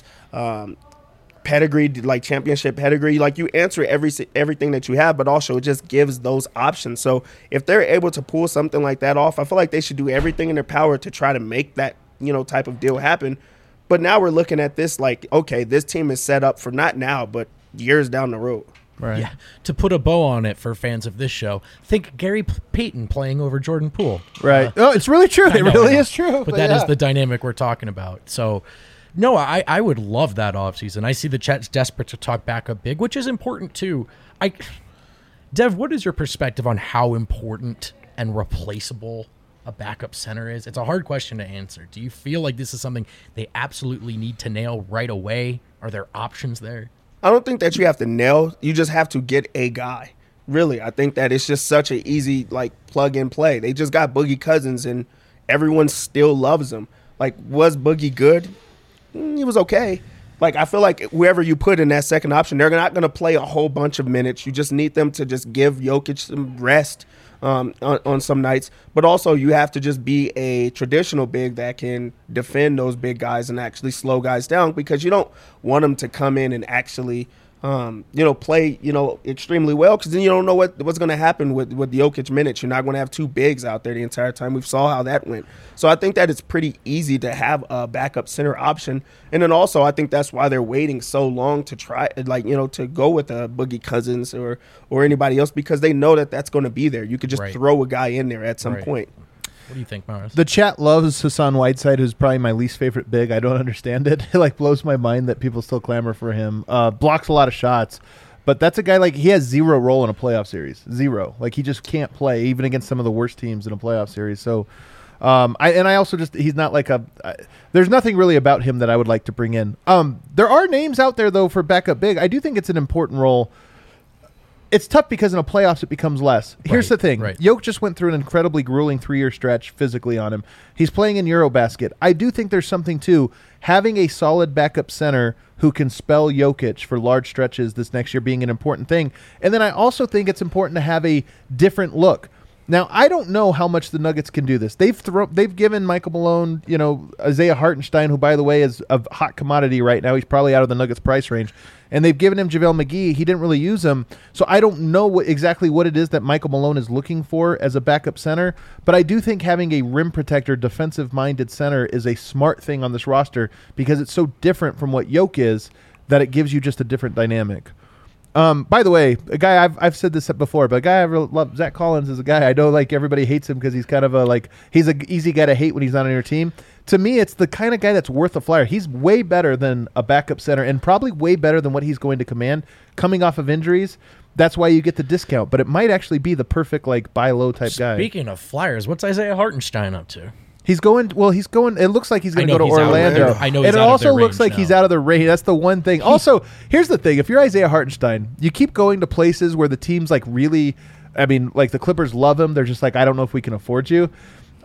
pedigree, like championship pedigree. Like you answer everything that you have, but also it just gives those options. So if they're able to pull something like that off, I feel like they should do everything in their power to try to make that, type of deal happen. But now we're looking at this like, okay, this team is set up for not now, but years down the road. Right. Yeah, to put a bow on it for fans of this show, think Gary Payton playing over Jordan Poole. Right. It's really true. It I really know. is true. But that is the dynamic we're talking about. So, no, I would love that offseason. I see the chat's desperate to talk backup big, which is important too. Dev, what is your perspective on how important and replaceable a backup center is? It's a hard question to answer. Do you feel like this is something they absolutely need to nail right away? Are there options there? I don't think that you have to nail. You just have to get a guy. Really, I think that it's just such an easy plug and play. They just got Boogie Cousins, and everyone still loves him. Like, was Boogie good? He was okay. Like, I feel like whoever you put in that second option, they're not going to play a whole bunch of minutes. You just need them to just give Jokic some rest on some nights. But also, you have to just be a traditional big that can defend those big guys and actually slow guys down, because you don't want them to come in and actually play, extremely well, because then you don't know what's going to happen with the Jokic minutes. You're not going to have two bigs out there the entire time. We saw how that went. So I think that it's pretty easy to have a backup center option. And then also I think that's why they're waiting so long to try, to go with a Boogie Cousins or anybody else, because they know that that's going to be there. You could just throw a guy in there at some point. What do you think, Maris? The chat loves Hassan Whiteside, who's probably my least favorite big. I don't understand it. It blows my mind that people still clamor for him. Blocks a lot of shots, but that's a guy he has zero role in a playoff series. Zero. He just can't play even against some of the worst teams in a playoff series. So, I also he's not there's nothing really about him that I would like to bring in. There are names out there though for backup big. I do think it's an important role. It's tough because in a playoffs it becomes less. Here's the thing. Jokic just went through an incredibly grueling 3-year stretch physically on him. He's playing in Eurobasket. I do think there's something to having a solid backup center who can spell Jokic for large stretches this next year being an important thing. And then I also think it's important to have a different look. Now, I don't know how much the Nuggets can do this. They've given Michael Malone, Isaiah Hartenstein, who, by the way, is a hot commodity right now. He's probably out of the Nuggets price range. And they've given him JaVale McGee. He didn't really use him. So I don't know exactly what it is that Michael Malone is looking for as a backup center. But I do think having a rim protector, defensive-minded center is a smart thing on this roster because it's so different from what Jokic is that it gives you just a different dynamic. By the way, a guy I've said this before, but a guy I really love, Zach Collins, is a guy I know everybody hates him because he's kind of he's an easy guy to hate when he's not on your team. To me, it's the kind of guy that's worth a flyer. He's way better than a backup center and probably way better than what he's going to command coming off of injuries. That's why you get the discount, but it might actually be the perfect buy low type guy. Speaking of flyers, what's Isaiah Hartenstein up to? He's going. It looks like he's going to go to Orlando. I know. And it also looks like he's out of the range. That's the one thing. Also, here's the thing: if you're Isaiah Hartenstein, you keep going to places where the team's really, the Clippers love him. They're just I don't know if we can afford you.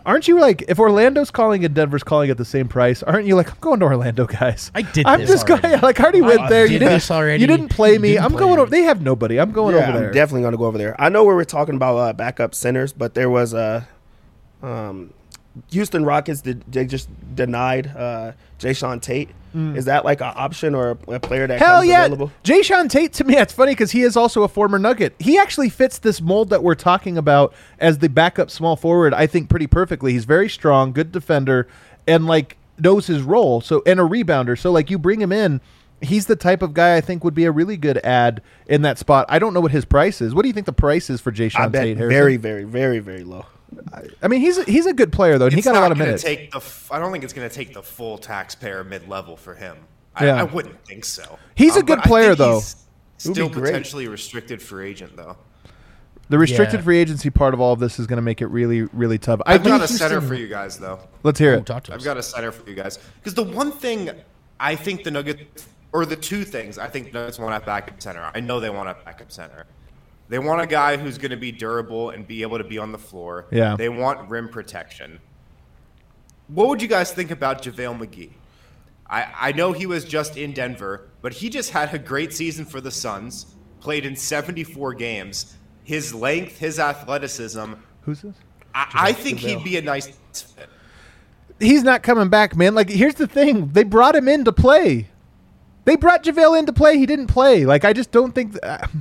Aren't you like, if Orlando's calling and Denver's calling at the same price, aren't you like, I'm going to Orlando, guys? I did I'm this just already. going, like, I already went there. You did this already. You didn't play me. didn't I'm play going me. over. They have nobody. I'm going over there. I'm definitely going to go over there. I know we were talking about backup centers, but there was a Houston Rockets. They just denied Jayshawn Tate. Is that like an option or a player that Hell comes yeah. available? Jayshawn Tate, to me, it's funny because he is also a former Nugget. He actually fits this mold that we're talking about as the backup small forward, I think, pretty perfectly. He's very strong, good defender, and like knows his role. So, and a rebounder. So like you bring him in, he's the type of guy I think would be a really good ad in that spot. I don't know what his price is. What do you think the price is for I Jayshawn bet Tate, Harrison? very, very, very, very low. I mean, he's a good player though. And he It's got a lot not of gonna minutes. I don't think it's going to take the full taxpayer mid-level for him. Yeah. I wouldn't think so. He's a But good I think player, though. he's Would be Still great. potentially restricted free agent, though. The restricted Yeah. free agency part of all of this is going to make it really, really tough. I've got a think center Houston- for you guys, though. Let's hear Oh, it. talk to us. I've got a center for you guys. Because the one thing I think the Nuggets, or the two things I think the Nuggets want at backup center, I know they want a backup center. They want a guy who's going to be durable and be able to be on the floor. Yeah. They want rim protection. What would you guys think about JaVale McGee? I know he was just in Denver, but he just had a great season for the Suns, played in 74 games. His length, his athleticism, Who's this? I think he'd be a nice fit. He's not coming back, man. Like, here's the thing. They brought him in to play. They brought JaVale in to play. He didn't play. Like, I just don't think...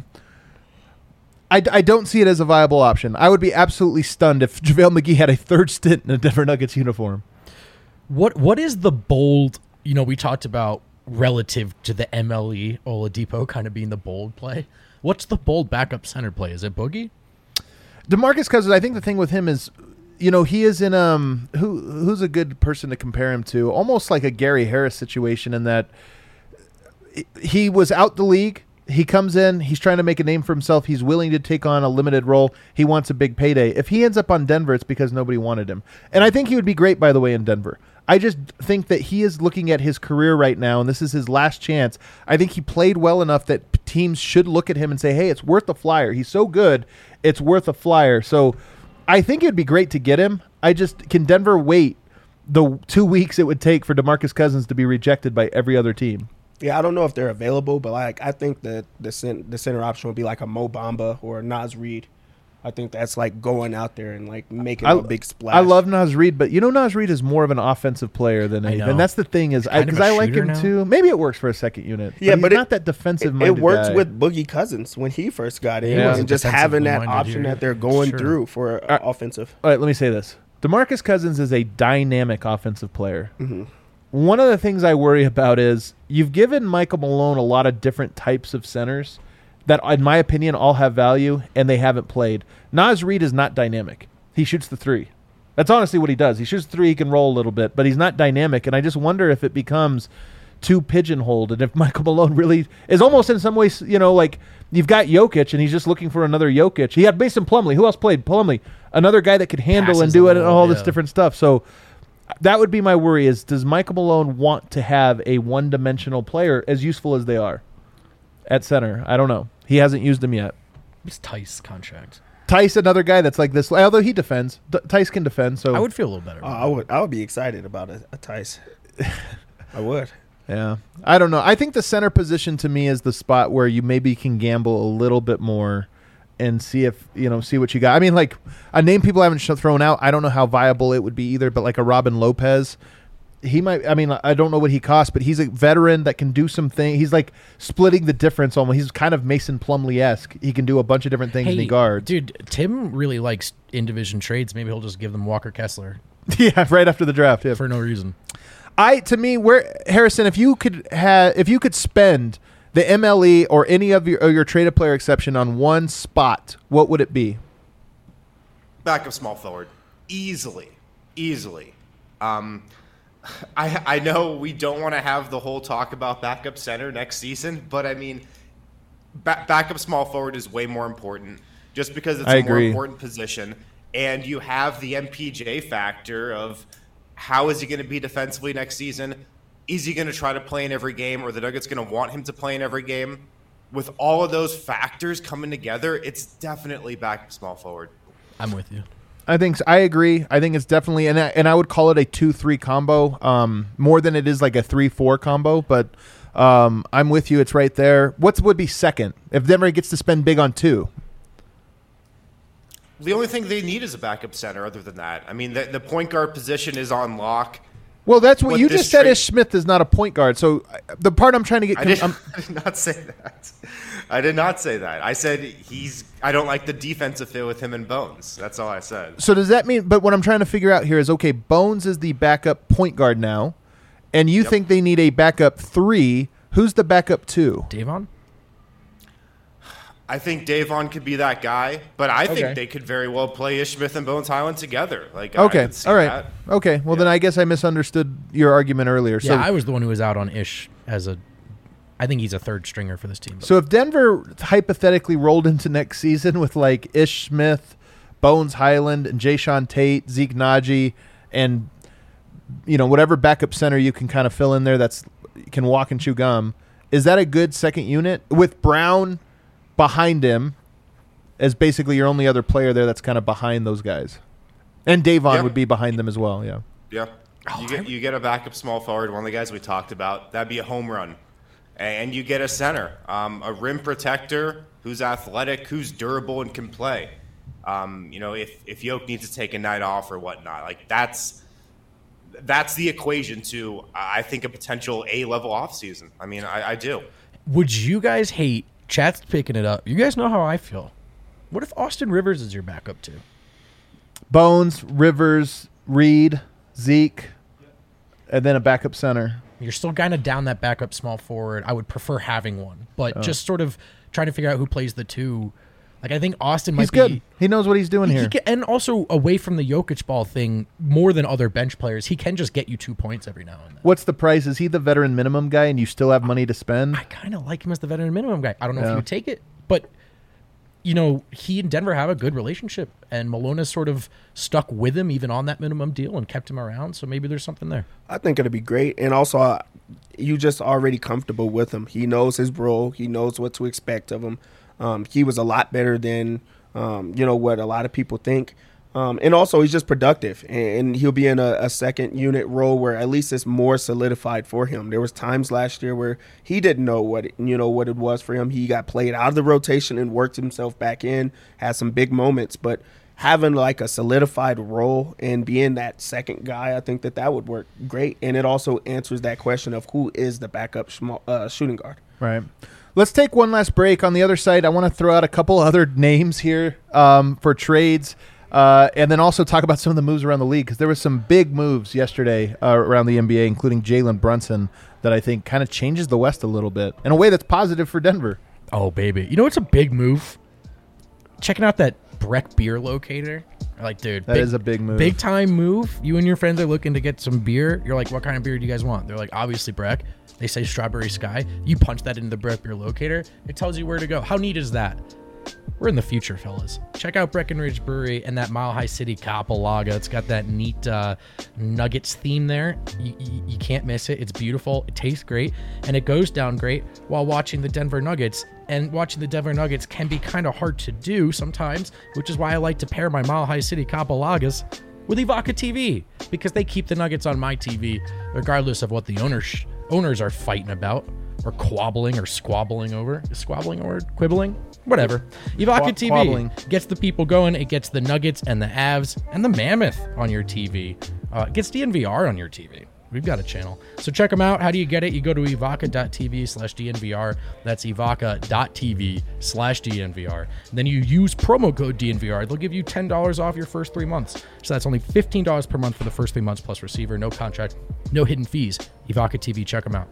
I don't see it as a viable option. I would be absolutely stunned if JaVale McGee had a third stint in a Denver Nuggets uniform. What is the bold? You know, we talked about relative to the MLE Oladipo kind of being the bold play. What's the bold backup center play? Is it Boogie? DeMarcus Cousins, I think the thing with him is, you know, he is in who's a good person to compare him to? Almost like a Gary Harris situation in that he was out the league. He comes in, he's trying to make a name for himself. He's willing to take on a limited role. He wants a big payday. If he ends up on Denver, it's because nobody wanted him. And I think he would be great, by the way, in Denver. I just think that he is looking at his career right now, and this is his last chance. I think he played well enough that teams should look at him and say, hey, it's worth a flyer. He's so good, it's worth a flyer. So I think it would be great to get him. Can Denver wait the 2 weeks it would take for DeMarcus Cousins to be rejected by every other team? Yeah, I don't know if they're available, but like I think that the center option would be like a Mo Bamba or a Naz Reid. I think that's like going out there and like making a big splash. I love Naz Reid, but you know Naz Reid is more of an offensive player than anything. know. And that's the thing is, kind of because a I like shooter him now. too. Maybe it works for a second unit. Yeah, but but he's not that defensive-minded It works guy. with Boogie Cousins when he first got in, Yeah. and just having that Defensively option minded that they're going Sure. through for offensive. All right, let me say this. DeMarcus Cousins is a dynamic offensive player. Mm-hmm. One of the things I worry about is you've given Michael Malone a lot of different types of centers that, in my opinion, all have value, and they haven't played. Naz Reid is not dynamic. He shoots the three. That's honestly what he does. He shoots the three, he can roll a little bit, but he's not dynamic, and I just wonder if it becomes too pigeonholed, and if Michael Malone really is almost in some ways, you know, like you've got Jokic, and he's just looking for another Jokic. He had Mason Plumlee. Who else played? Plumlee. Another guy that could handle and Passes do the it and ball, all this yeah. different stuff. So that would be my worry is, does Michael Malone want to have a one-dimensional player as useful as they are at center? I don't know. He hasn't used them yet. It's Tice contract. Tice, another guy that's like this, although he defends. Tice can defend, so I would feel a little better. I would be excited about a Tice. I would. yeah. I don't know. I think the center position to me is the spot where you maybe can gamble a little bit more and see if, see what you got. I mean, like a name people haven't thrown out. I don't know how viable it would be either, but like a Robin Lopez, he might, I mean, I don't know what he costs, but he's a veteran that can do some things. He's like splitting the difference almost. He's kind of Mason Plumlee-esque. He can do a bunch of different things in the guards. Dude, Tim really likes in-division trades. Maybe he'll just give them Walker Kessler Yeah, right after the draft. Yeah. for no reason. To me, Harrison, if you could spend the MLE or any of your traded player exception on one spot, what would it be? Backup small forward. Easily. I know we don't want to have the whole talk about backup center next season, but I mean, backup small forward is way more important just because it's I a more agree. important position. And you have the MPJ factor of how is he going to be defensively next season? Is he going to try to play in every game, or the Nuggets going to want him to play in every game? With all of those factors coming together, it's definitely backup small forward. I'm with you. I think I agree. I think it's definitely, and I would call it a 2-3 combo, more than it is like a 3-4 combo. But I'm with you. It's right there. What would be second if Denver gets to spend big on 2? The only thing they need is a backup center. Other than that, I mean, the point guard position is on lock. Well, that's what you just said. Ish Smith is not a point guard. So the part I'm trying to get, I did not say that. I did not say that. I said I don't like the defensive fit with him and Bones. That's all I said. So does that mean? But what I'm trying to figure out here is, okay, Bones is the backup point guard now, and you think they need a backup 3. Who's the backup 2? Davon? I think Davon could be that guy, but I think they could very well play Ish Smith and Bones Highland together. Like, okay, all right, that. Okay. Well, then I guess I misunderstood your argument earlier. So, yeah, I was the one who was out on Ish as a. I think he's a third stringer for this team. So if Denver hypothetically rolled into next season with like Ish Smith, Bones Highland, and Jayshawn Tate, Zeke Naji, and whatever backup center you can kind of fill in there that's can walk and chew gum, is that a good second unit with Brown behind him as basically your only other player there that's kind of behind those guys? And Davon would be behind them as well, yeah. Yeah. You get a backup small forward, one of the guys we talked about. That'd be a home run. And you get a center, a rim protector who's athletic, who's durable and can play. If Yoke needs to take a night off or whatnot, like that's the equation to, I think, a potential A-level offseason. I mean, I do. Would you guys hate, chat's picking it up, you guys know how I feel. What if Austin Rivers is your backup too? Bones, Rivers, Reed, Zeke, and then a backup center. You're still kind of down that backup small forward. I would prefer having one, but just sort of trying to figure out who plays the 2. Like, I think Austin might be good. He knows what he's doing here. And also, away from the Jokic ball thing, more than other bench players, he can just get you 2 points every now and then. What's the price? Is he the veteran minimum guy and you still have money to spend? I kind of like him as the veteran minimum guy. I don't know if he would take it, but he and Denver have a good relationship, and Malone has sort of stuck with him even on that minimum deal and kept him around, so maybe there's something there. I think it'll be great, and also you just already comfortable with him. He knows his role. He knows what to expect of him. He was a lot better than what a lot of people think. And also he's just productive, and he'll be in a second unit role where at least it's more solidified for him. There was times last year where he didn't know what it was for him. He got played out of the rotation and worked himself back in, had some big moments, but having like a solidified role and being that second guy, I think that would work great. And it also answers that question of who is the backup shooting guard. Right. Let's take one last break. On the other side, I want to throw out a couple other names here for trades. And then also talk about some of the moves around the league, because there was some big moves yesterday around the NBA, including Jalen Brunson, that I think kind of changes the West a little bit in a way that's positive for Denver. Oh, baby. You know what's a big move? Checking out that Breck beer locator. Like, dude, that is a big move. Big time move. You and your friends are looking to get some beer. You're like, what kind of beer do you guys want? They're like, obviously Breck. They say Strawberry Sky. You punch that into the Breck beer locator. It tells you where to go. How neat is that? We're in the future, fellas. Check out Breckenridge Brewery and that Mile High City Capolaga. It's got that neat Nuggets theme there. You can't miss it. It's beautiful. It tastes great. And it goes down great while watching the Denver Nuggets. And watching the Denver Nuggets can be kind of hard to do sometimes, which is why I like to pair my Mile High City Capolagas with Evoca TV, because they keep the Nuggets on my TV regardless of what the owners are fighting about or quabbling or squabbling over. Is squabbling a word? Quibbling? Whatever. Evoca TV quabbling. Gets the people going. It gets the Nuggets and the Avs and the Mammoth on your TV. It gets DNVR on your TV. We've got a channel. So check them out. How do you get it? You go to evoca.tv/DNVR. That's evoca.tv/DNVR. Then you use promo code DNVR. They'll give you $10 off your first 3 months. So that's only $15 per month for the first 3 months plus receiver. No contract, no hidden fees. Evoca TV, check them out.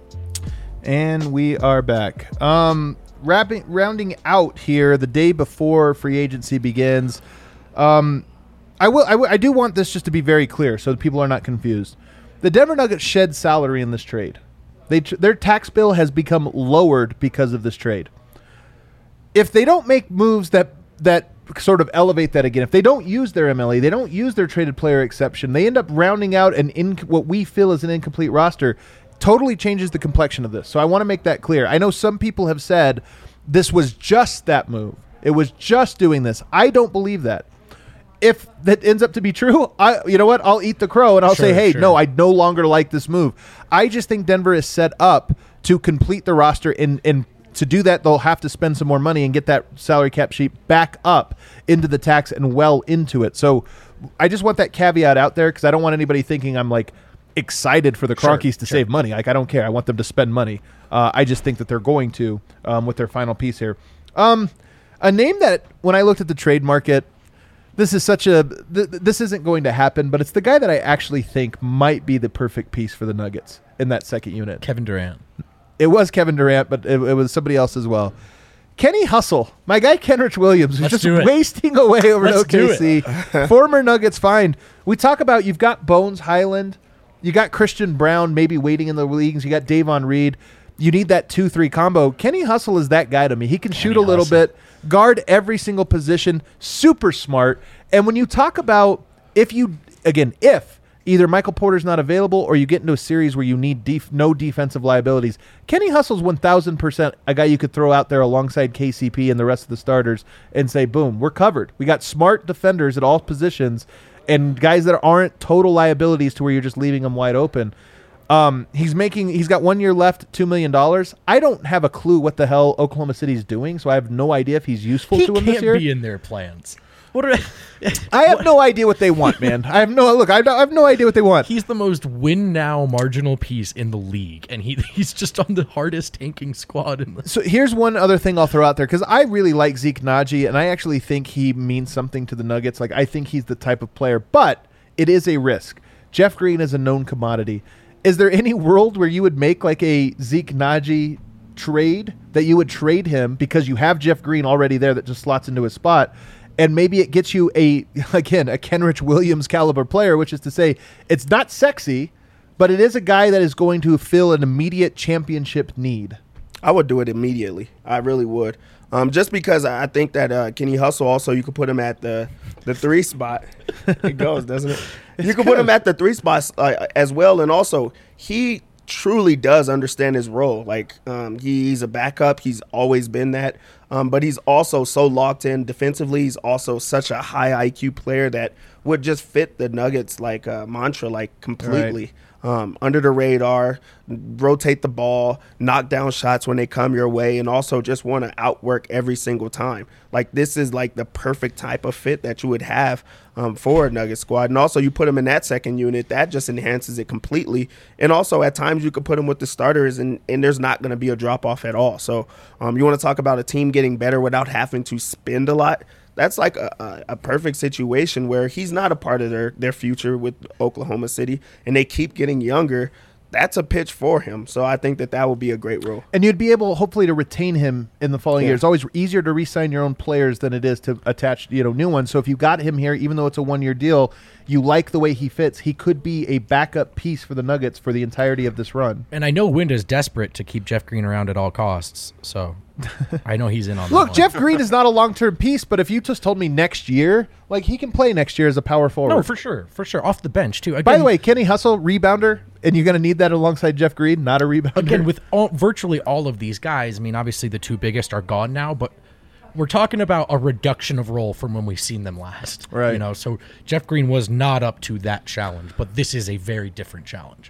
And we are back. Rounding out here the day before free agency begins. I do want this just to be very clear so that people are not confused. The Denver Nuggets shed salary in this trade. Their tax bill has become lowered because of this trade. If they don't make moves that sort of elevate that again, if they don't use their MLE, they don't use their traded player exception, they end up rounding out what we feel is an incomplete roster. Totally changes the complexion of this. So I want to make that clear. I know some people have said this was just that move. It was just doing this. I don't believe that. if that ends up to be true, you know what? I'll eat the crow and I'll say, hey, no, I no longer like this move. I just think Denver is set up to complete the roster, and to do that, they'll have to spend some more money and get that salary cap sheet back up into the tax and well into it. So I just want that caveat out there because I don't want anybody thinking I'm like excited for the Cronkies to save money. Like, I don't care. I want them to spend money. I just think that they're going to with their final piece here. A name that when I looked at the trade market, this isn't going to happen, but it's the guy that I actually think might be the perfect piece for the Nuggets in that second unit. Kevin Durant. It was Kevin Durant, but it was somebody else as well. Kenny Hustle, my guy Kenrich Williams, who's just wasting away over at OKC. Former Nuggets find. We talk about you've got Bones Highland, you got Christian Brown maybe waiting in the leagues, you got Davon Reed. You need that 2-3 combo. Kenny Hustle is that guy to me. He can shoot a little bit, guard every single position, super smart. And when you talk about if either Michael Porter's not available or you get into a series where you need no defensive liabilities, Kenny Hustle's 1,000% a guy you could throw out there alongside KCP and the rest of the starters and say, boom, we're covered. We got smart defenders at all positions and guys that aren't total liabilities to where you're just leaving them wide open. He's got 1 year left, $2 million. I don't have a clue what the hell Oklahoma City's doing, so I have no idea if he's useful to him this year. He can't be in their plans. I have no idea what they want, man. I have no idea what they want. He's the most win now marginal piece in the league, and he's just on the hardest tanking squad. So here's one other thing I'll throw out there, because I really like Zeke Naji, and I actually think he means something to the Nuggets. Like, I think he's the type of player, but it is a risk. Jeff Green is a known commodity. Is there any world where you would make like a Zeke Naji trade that you would trade him because you have Jeff Green already there that just slots into his spot? And maybe it gets you a Kenrich Williams caliber player, which is to say it's not sexy, but it is a guy that is going to fill an immediate championship need. I would do it immediately. I really would. Just because I think that Kenny Hustle also, you could put him at the 3 spot. It goes, doesn't it? You can put him at the 3 spots as well. And also, he truly does understand his role. Like, he's a backup. He's always been that. But he's also so locked in defensively. He's also such a high IQ player that would just fit the Nuggets mantra completely. Right. Under the radar, rotate the ball, knock down shots when they come your way, and also just want to outwork every single time. Like, this is like the perfect type of fit that you would have for a Nugget squad. And also, you put him in that second unit, that just enhances it completely. And also, at times, you could put him with the starters, and there's not going to be a drop-off at all. So, you want to talk about a team getting better without having to spend a lot? That's like a perfect situation where he's not a part of their future with Oklahoma City, and they keep getting younger. That's a pitch for him. So I think that would be a great role. And you'd be able, hopefully, to retain him in the following year. It's always easier to re-sign your own players than it is to attach new ones. So if you got him here, even though it's a 1-year deal, you like the way he fits, he could be a backup piece for the Nuggets for the entirety of this run. And I know Wind is desperate to keep Jeff Green around at all costs, so I know he's in on that. Look, Jeff Green is not a long-term piece, but if you just told me next year, like, he can play next year as a power forward. No, for sure. Off the bench, too. Again, by the way, Kenny Hustle, rebounder, and you're going to need that alongside Jeff Green, not a rebounder. Again, with virtually all of these guys, I mean, obviously the 2 biggest are gone now, but we're talking about a reduction of role from when we've seen them last. Right. So Jeff Green was not up to that challenge, but this is a very different challenge.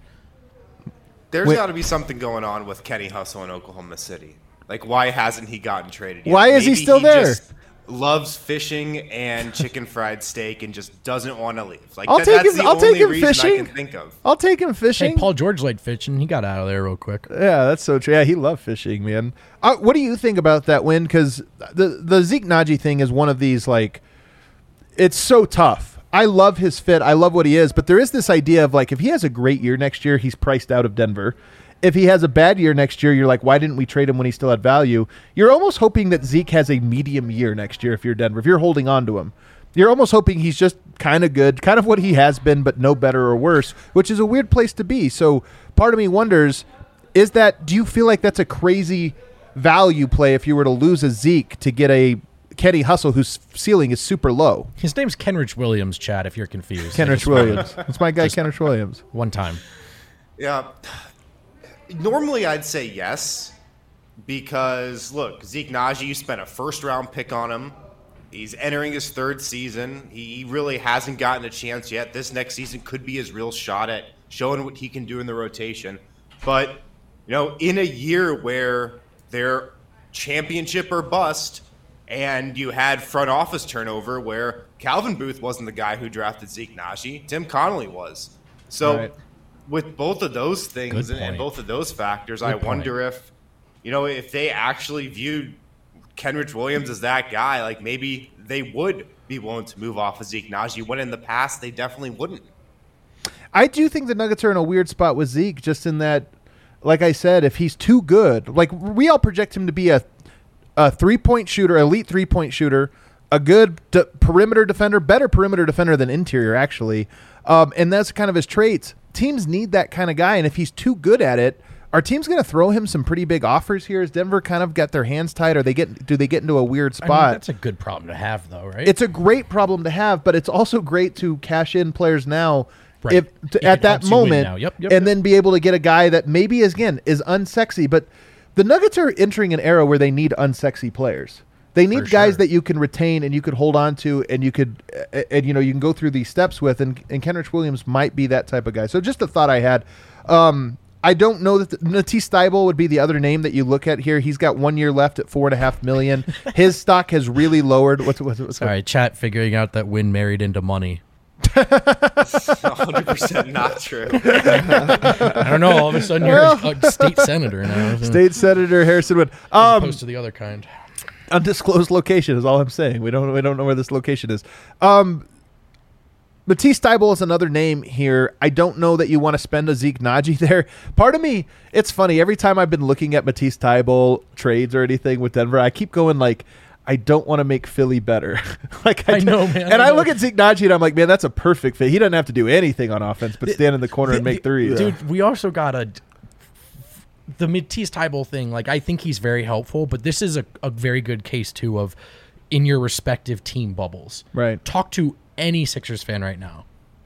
There's got to be something going on with Kenny Hustle in Oklahoma City. Like, why hasn't he gotten traded yet? Why is he still there? Just loves fishing and chicken fried steak and just doesn't want to leave. Like, I'll take him reason fishing. I can think of. I'll take him fishing. Hey, Paul George liked fishing. He got out of there real quick. Yeah, that's so true. Yeah, he loved fishing, man. What do you think about that win? Because the Zeke Naji thing is one of these, like, it's so tough. I love his fit. I love what he is. But there is this idea of, like, if he has a great year next year, he's priced out of Denver. If he has a bad year next year, you're like, why didn't we trade him when he still had value? You're almost hoping that Zeke has a medium year next year if you're Denver. If you're holding on to him, you're almost hoping he's just kind of good, kind of what he has been, but no better or worse, which is a weird place to be. So part of me wonders, do you feel like that's a crazy value play if you were to lose a Zeke to get a Kenny Hustle whose ceiling is super low? His name's Kenrich Williams, Chad, if you're confused. Kenrich Williams. That's my guy, Kenrich Williams. One time. Yeah. Normally, I'd say yes, because, look, Zeke Naji, you spent a first-round pick on him. He's entering his third season. He really hasn't gotten a chance yet. This next season could be his real shot at showing what he can do in the rotation. But, in a year where they're championship or bust, and you had front office turnover where Calvin Booth wasn't the guy who drafted Zeke Nnaji, Tim Connolly was. So with both of those things and both of those factors, I wonder if they actually viewed Kenrich Williams as that guy, like maybe they would be willing to move off of Zeke Nnaji, when in the past they definitely wouldn't. I do think the Nuggets are in a weird spot with Zeke, just in that, like I said, if he's too good, like we all project him to be a three-point shooter, elite three-point shooter, a good perimeter defender, better perimeter defender than interior, actually. And that's kind of his traits. Teams need that kind of guy, and if he's too good at it, are teams going to throw him some pretty big offers here? Has Denver kind of got their hands tied, or do they get into a weird spot? I mean, that's a good problem to have, though, right? It's a great problem to have, but it's also great to cash in players now at that moment, and then be able to get a guy that maybe is unsexy. But the Nuggets are entering an era where they need unsexy players. They need guys that you can retain and you could hold on to, and you could, you can go through these steps with. And Kenrich Williams might be that type of guy. So just a thought I had. I don't know that Matisse Thybulle would be the other name that you look at here. He's got 1 year left at $4.5 million. His stock has really lowered. Sorry, chat figuring out that Wynn married into money. 100% not true. I don't know. All of a sudden, you're a state senator now. State Senator Harrison Wood. As opposed to the other kind. Undisclosed location is all I'm saying. We don't know where this location is. Matisse Thybulle is another name here. I don't know that you want to spend a Zeke Nnaji there. Part of me, it's funny. Every time I've been looking at Matisse Thybulle trades or anything with Denver, I keep going like, I don't want to make Philly better. I know, man. And I look at Zeke Nnaji and I'm like, man, that's a perfect fit. He doesn't have to do anything on offense but stand in the corner and make threes. Dude, we also got the Matisse Thybulle thing. Like, I think he's very helpful, but this is a very good case, too, of in your respective team bubbles. Right. Talk to any Sixers fan right now.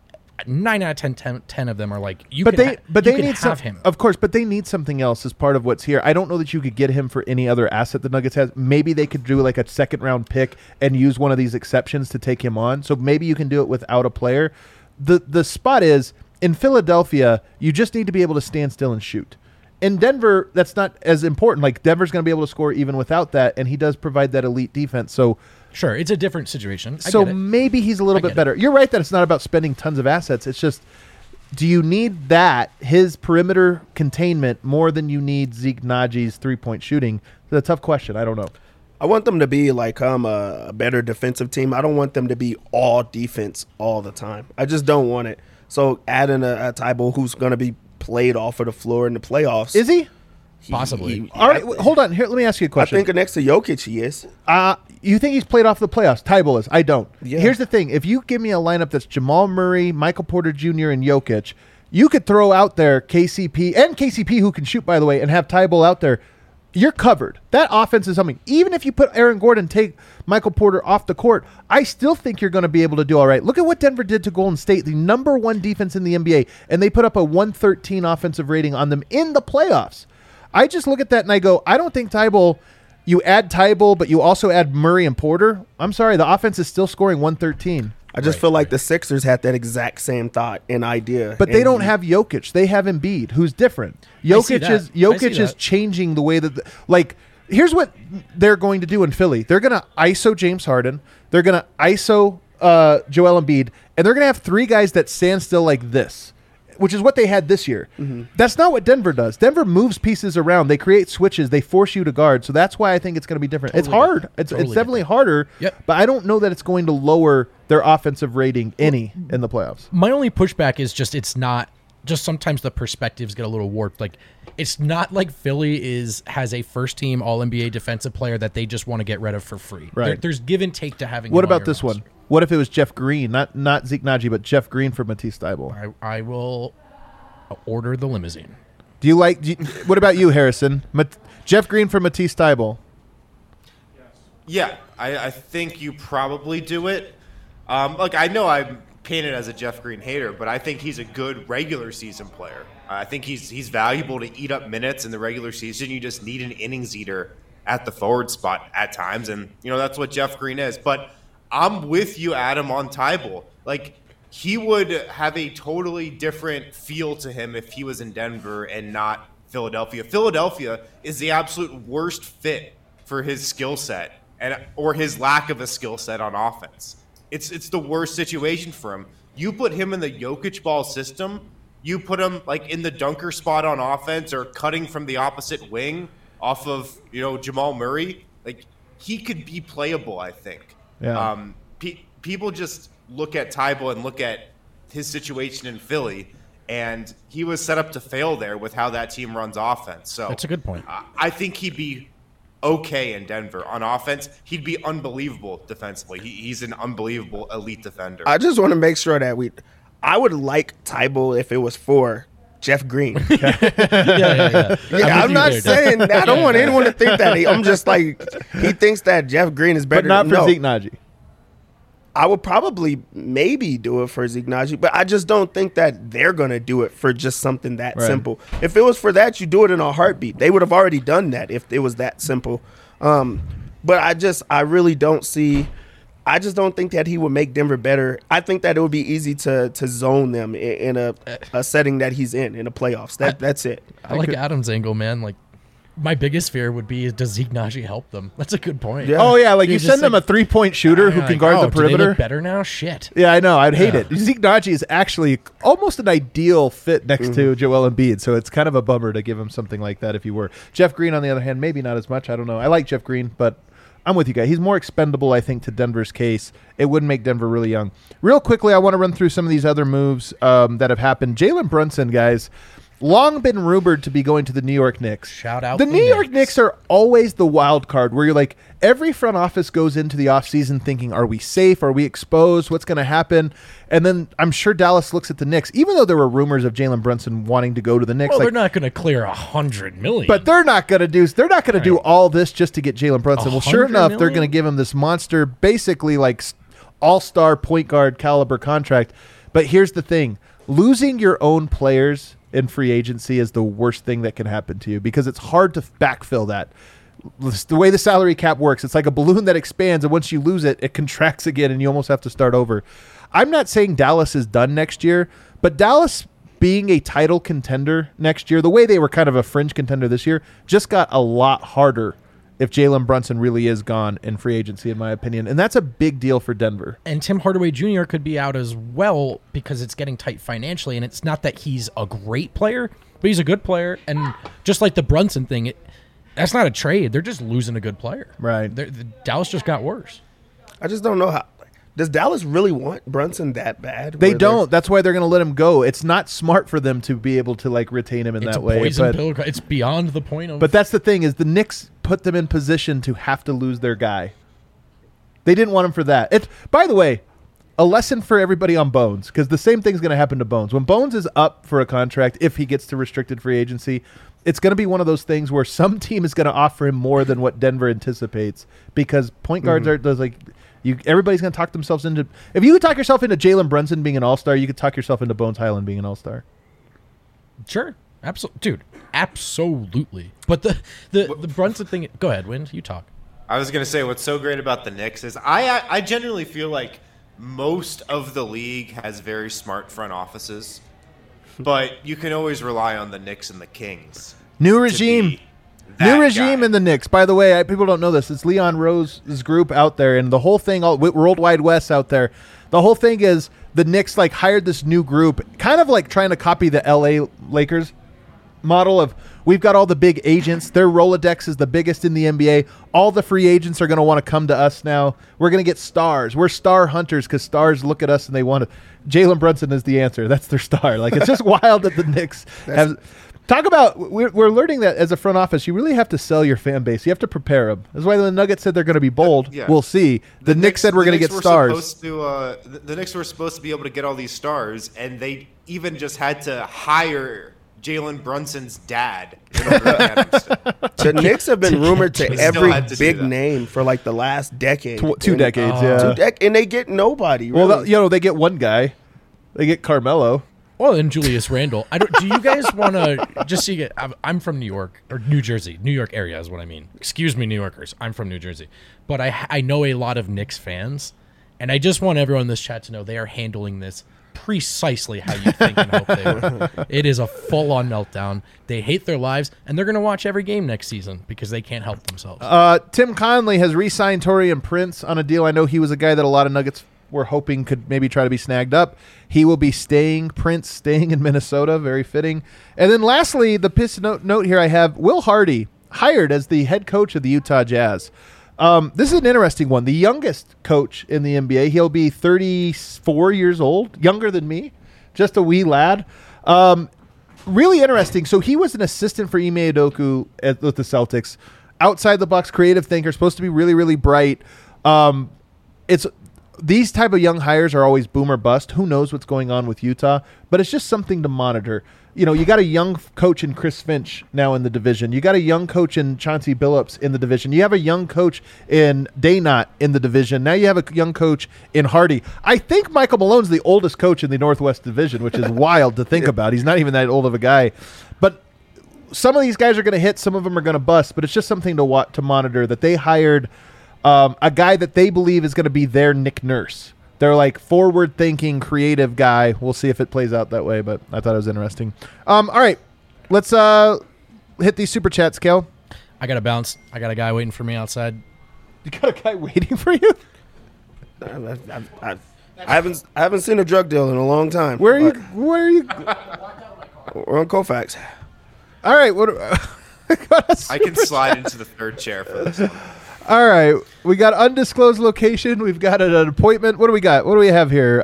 9 out of 10 of them are like, they need him. Of course, but they need something else as part of what's here. I don't know that you could get him for any other asset the Nuggets has. Maybe they could do like a second round pick and use one of these exceptions to take him on. So maybe you can do it without a player. The spot is in Philadelphia, you just need to be able to stand still and shoot. In Denver, that's not as important. Like Denver's going to be able to score even without that, and he does provide that elite defense. So sure, it's a different situation. So maybe he's a little bit better. You're right that it's not about spending tons of assets. It's just, do you need his perimeter containment, more than you need Zeke Nnaji's three-point shooting? It's a tough question. I don't know. I want them to be like a better defensive team. I don't want them to be all defense all the time. I just don't want it. So adding a Thybulle who's going to be played off of the floor in the playoffs. Is he? Possibly. All right, hold on. Here, let me ask you a question. I think next to Jokic he is. You think he's played off the playoffs? Thybulle is. I don't. Yeah. Here's the thing. If you give me a lineup that's Jamal Murray, Michael Porter Jr., and Jokic, you could throw out there KCP, who can shoot, by the way, and have Thybulle out there. You're covered. That offense is something. Even if you put Aaron Gordon, take Michael Porter off the court, I still think you're going to be able to do all right. Look at what Denver did to Golden State, the number one defense in the NBA, and they put up a 113 offensive rating on them in the playoffs. I just look at that and I go, I don't think Thybulle, you add Thybulle, but you also add Murray and Porter. I'm sorry, the offense is still scoring 113. I just feel like the Sixers had that exact same thought and idea. But they don't have Jokic. They have Embiid, who's different. Jokic is changing the way that here's what they're going to do in Philly. They're going to ISO James Harden. They're going to ISO Joel Embiid, and they're going to have three guys that stand still like this, which is what they had this year. Mm-hmm. That's not what Denver does. Denver moves pieces around. They create switches. They force you to guard. So that's why I think it's going to be different. It's hard. It's definitely harder. Yep. But I don't know that it's going to lower their offensive rating in the playoffs. My only pushback is just it's not. Just sometimes the perspectives get a little warped. Like, it's not like Philly has a first-team All-NBA defensive player that they just want to get rid of for free. Right. There's give and take to having. What about this one? What if it was Jeff Green, not Zeke Nnaji, but Jeff Green for Matisse Thybulle? I will order the limousine. What about you, Harrison? Jeff Green for Matisse Thybulle? Yeah, I think you probably do it. I know I'm painted as a Jeff Green hater, but I think he's a good regular season player. I think he's valuable to eat up minutes in the regular season. You just need an innings eater at the forward spot at times, and that's what Jeff Green is. But I'm with you, Adam, on Thybulle. Like, he would have a totally different feel to him if he was in Denver and not Philadelphia. Philadelphia is the absolute worst fit for his skill set or his lack of a skill set on offense. It's the worst situation for him. You put him in the Jokic ball system, you put him like in the dunker spot on offense or cutting from the opposite wing off of Jamal Murray, like he could be playable, I think. Yeah. People just look at Thybulle and look at his situation in Philly, and he was set up to fail there with how that team runs offense. So that's a good point. I think he'd be okay in Denver on offense. He'd be unbelievable defensively. He's an unbelievable elite defender. I just want to make sure that I would like Thybulle if it was for Jeff Green. Yeah. I'm not saying I don't want anyone to think that. I'm just like, he thinks that Jeff Green is better. But not for Zeke Nnaji. I would probably maybe do it for Zeke Nnaji, but I just don't think that they're going to do it for just something that simple. If it was for that, you do it in a heartbeat. They would have already done that if it was that simple. But I really don't see – I just don't think that he would make Denver better. I think that it would be easy to zone them in a setting that he's in a playoffs. That's it. I like Adam's angle, man. Like, my biggest fear would be, does Zeke Nnaji help them? That's a good point. Yeah. Oh, yeah, like you send them a three-point shooter who can guard the perimeter. Do they look better now? Shit. Yeah, I know. I'd hate it. Zeke Nnaji is actually almost an ideal fit next to Joel Embiid, so it's kind of a bummer to give him something like that if he were. Jeff Green, on the other hand, maybe not as much. I don't know. I like Jeff Green, but I'm with you guys. He's more expendable, I think, to Denver's case. It wouldn't make Denver really young. Real quickly, I want to run through some of these other moves that have happened. Jalen Brunson, guys, long been rumored to be going to the New York Knicks. Shout out the New York Knicks are always the wild card where you're like, every front office goes into the offseason thinking, are we safe? Are we exposed? What's going to happen? And then I'm sure Dallas looks at the Knicks, even though there were rumors of Jalen Brunson wanting to go to the Knicks. Well, they're not going to clear $100 million. But they're not going to do all this just to get Jalen Brunson. Well, sure enough, they're going to give him this monster, basically like all-star point guard caliber contract. But here's the thing. Losing your own players in free agency is the worst thing that can happen to you because it's hard to backfill that. The way the salary cap works, it's like a balloon that expands, and once you lose it, it contracts again, and you almost have to start over. I'm not saying Dallas is done next year, but Dallas being a title contender next year, the way they were kind of a fringe contender this year, just got a lot harder if Jalen Brunson really is gone in free agency, in my opinion. And that's a big deal for Denver. And Tim Hardaway Jr. could be out as well because it's getting tight financially. And it's not that he's a great player, but he's a good player. And just like the Brunson thing, that's not a trade. They're just losing a good player. Right. Dallas just got worse. I just don't know how. Does Dallas really want Brunson that bad? They don't. That's why they're going to let him go. It's not smart for them to be able to like retain him in that way. It's beyond the point of. But that's the thing is the Knicks put them in position to have to lose their guy. They didn't want him for that. By the way, a lesson for everybody on Bones, because the same thing's going to happen to Bones. When Bones is up for a contract, if he gets to restricted free agency, it's going to be one of those things where some team is going to offer him more than what Denver anticipates because point guards are like. Everybody's going to talk themselves into. If you could talk yourself into Jalen Brunson being an all-star, you could talk yourself into Bones Highland being an all-star. Sure, absolutely. But the Brunson thing. Go ahead, Wind. You talk. I was going to say what's so great about the Knicks is I genuinely feel like most of the league has very smart front offices, but you can always rely on the Knicks and the Kings. New regime. New regime in the Knicks. By the way, people don't know this. It's Leon Rose's group out there, and the whole thing, Worldwide West out there, the whole thing is the Knicks like hired this new group, kind of like trying to copy the LA Lakers model of we've got all the big agents. Their Rolodex is the biggest in the NBA. All the free agents are going to want to come to us now. We're going to get stars. We're star hunters because stars look at us and they want to. Jalen Brunson is the answer. That's their star. Like it's just wild that the Knicks have. Talk about, we're learning that as a front office, you really have to sell your fan base. You have to prepare them. That's why the Nuggets said they're going to be bold. Yeah. We'll see. The Knicks said we're going to get stars. The Knicks were supposed to be able to get all these stars, and they even just had to hire Jalen Brunson's dad. The Knicks have been rumored to every big name for like the last decade. Two decades, yeah. And they get nobody. Really. Well, they get one guy. They get Carmelo. Well, and Julius Randle. Do you guys want to just see it? I'm from New York or New Jersey. New York area is what I mean. Excuse me, New Yorkers. I'm from New Jersey. But I know a lot of Knicks fans, and I just want everyone in this chat to know they are handling this precisely how you think and hope they would. It is a full-on meltdown. They hate their lives, and they're going to watch every game next season because they can't help themselves. Tim Conley has re-signed Taurean Prince on a deal. I know he was a guy that a lot of Nuggets were hoping could maybe try to be snagged up. He will be Prince staying in Minnesota, very fitting. And then lastly, the piss note here I have, Will Hardy hired as the head coach of the Utah Jazz. This is an interesting one. The youngest coach in the NBA. He'll be 34 years old, younger than me, just a wee lad. Really interesting. So he was an assistant for Ime Udoka with the Celtics. Outside the box, creative thinker, supposed to be really, really bright. These type of young hires are always boom or bust. Who knows what's going on with Utah? But it's just something to monitor. You know, you got a young coach in Chris Finch now in the division. You got a young coach in Chauncey Billups in the division. You have a young coach in Daynot in the division. Now you have a young coach in Hardy. I think Michael Malone's the oldest coach in the Northwest Division, which is wild to think about. He's not even that old of a guy. But some of these guys are going to hit. Some of them are going to bust. But it's just something to monitor that they hired a guy that they believe is going to be their Nick Nurse. They're like forward-thinking, creative guy. We'll see if it plays out that way, but I thought it was interesting. All right, let's hit these super chats, Kel. I got to bounce. I got a guy waiting for me outside. You got a guy waiting for you? I haven't seen a drug deal in a long time. Where are you? We're on Colfax. All right. I can slide into the third chair for this one. All right, we got undisclosed location. We've got an appointment. What do we got? What do we have here?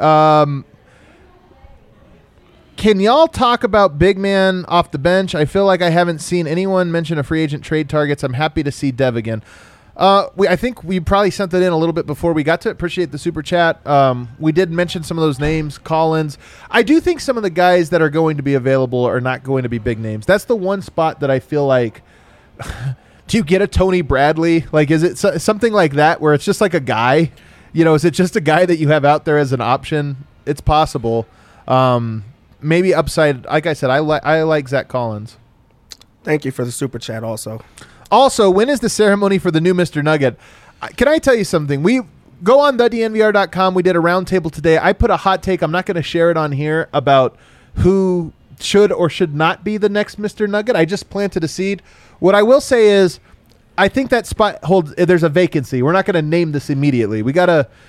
Can y'all talk about big man off the bench? I feel like I haven't seen anyone mention a free agent trade targets. I'm happy to see Dev again. I think we probably sent that in a little bit before we got to it. Appreciate the super chat. We did mention some of those names, Collins. I do think some of the guys that are going to be available are not going to be big names. That's the one spot that I feel like do you get a Tony Bradley? Like, is it something like that where it's just like a guy? You know, is it just a guy that you have out there as an option? It's possible. Maybe upside. Like I said, I like Zach Collins. Thank you for the super chat also. Also, when is the ceremony for the new Mr. Nugget? Can I tell you something? We go on thednvr.com. We did a roundtable today. I put a hot take. I'm not going to share it on here about who should or should not be the next Mr. Nugget. I just planted a seed. What I will say is I think that spot there's a vacancy. We're not going to name this immediately. We got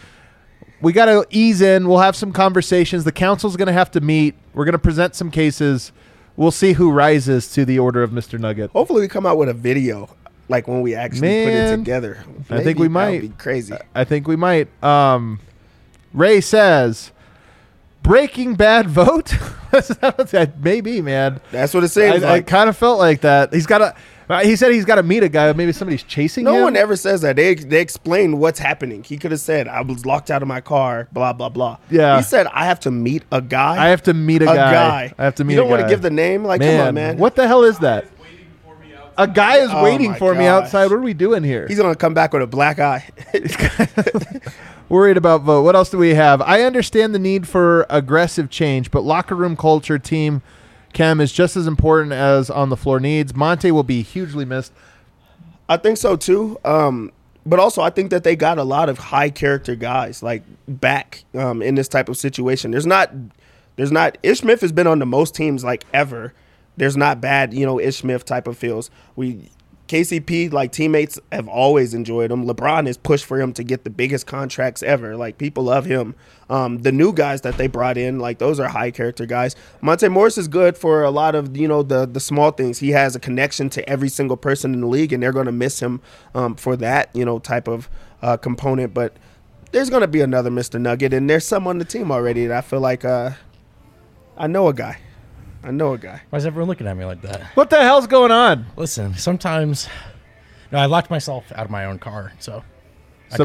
to ease in. We'll have some conversations. The council's going to have to meet. We're going to present some cases. We'll see who rises to the order of Mr. Nugget. Hopefully we come out with a video like when we actually put it together. I think we might. That would be crazy. I think we might. Ray says, Breaking Bad vote? Maybe, man. That's what it seems like. I kind of felt like that. He said he's got to meet a guy. Maybe somebody's chasing him. No one ever says that. They explain what's happening. He could have said, I was locked out of my car, blah, blah, blah. Yeah. He said, I have to meet a guy. I have to meet a guy. I have to meet a guy. You don't want to give the name? Like, come on, man. What the hell is that? A guy is waiting for me outside. What are we doing here? He's going to come back with a black eye. Worried about vote. What else do we have? I understand the need for aggressive change, but locker room culture, team chem is just as important as on the floor needs. Monte will be hugely missed. I think so too. But also I think that they got a lot of high character guys like back in this type of situation. There's not Ish Smith has been on the most teams like ever. There's not bad, Ish Smith type of feels. KCP, like, teammates have always enjoyed him. LeBron has pushed for him to get the biggest contracts ever. Like, people love him. The new guys that they brought in, like, those are high character guys. Monte Morris is good for a lot of, the small things. He has a connection to every single person in the league, and they're going to miss him for that, type of component. But there's going to be another Mr. Nugget, and there's some on the team already that I feel like I know a guy. Why is everyone looking at me like that? What the hell's going on? Listen, sometimes I locked myself out of my own car, so a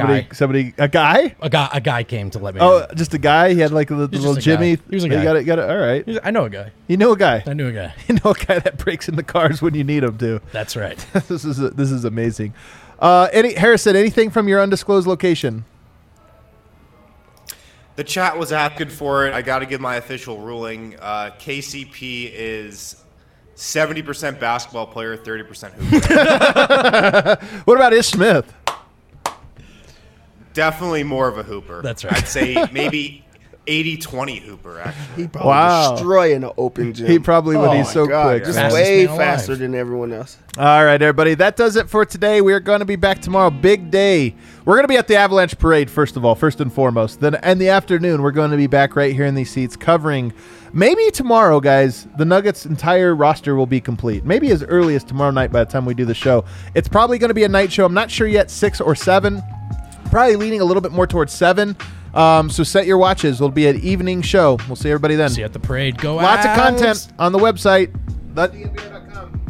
guy came to let me in. Just a guy? He had like a little Jimmy. He was a guy. Got it. All right. I know a guy. You know a guy. I knew a guy. You know a guy that breaks into cars when you need him to. That's right. This is amazing. Harrison, anything from your undisclosed location? The chat was asking for it. I got to give my official ruling. KCP is 70% basketball player, 30% hooper. What about Ish Smith? Definitely more of a hooper. That's right. I'd say maybe 80-20 hooper, actually. He probably destroying an open gym. He probably would. He's so quick. Just Fastest way man alive. faster than everyone else. All right, everybody. That does it for today. We're going to be back tomorrow. Big day. We're going to be at the Avalanche Parade, first and foremost. Then in the afternoon, we're going to be back right here in these seats covering. Maybe tomorrow, guys, the Nuggets' entire roster will be complete. Maybe as early as tomorrow night by the time we do the show. It's probably going to be a night show. I'm not sure yet, 6 or 7. Probably leaning a little bit more towards 7. So set your watches. It'll be an evening show. We'll see everybody then. See you at the parade. Go Lots of Avs! content on the website, thednbr.com.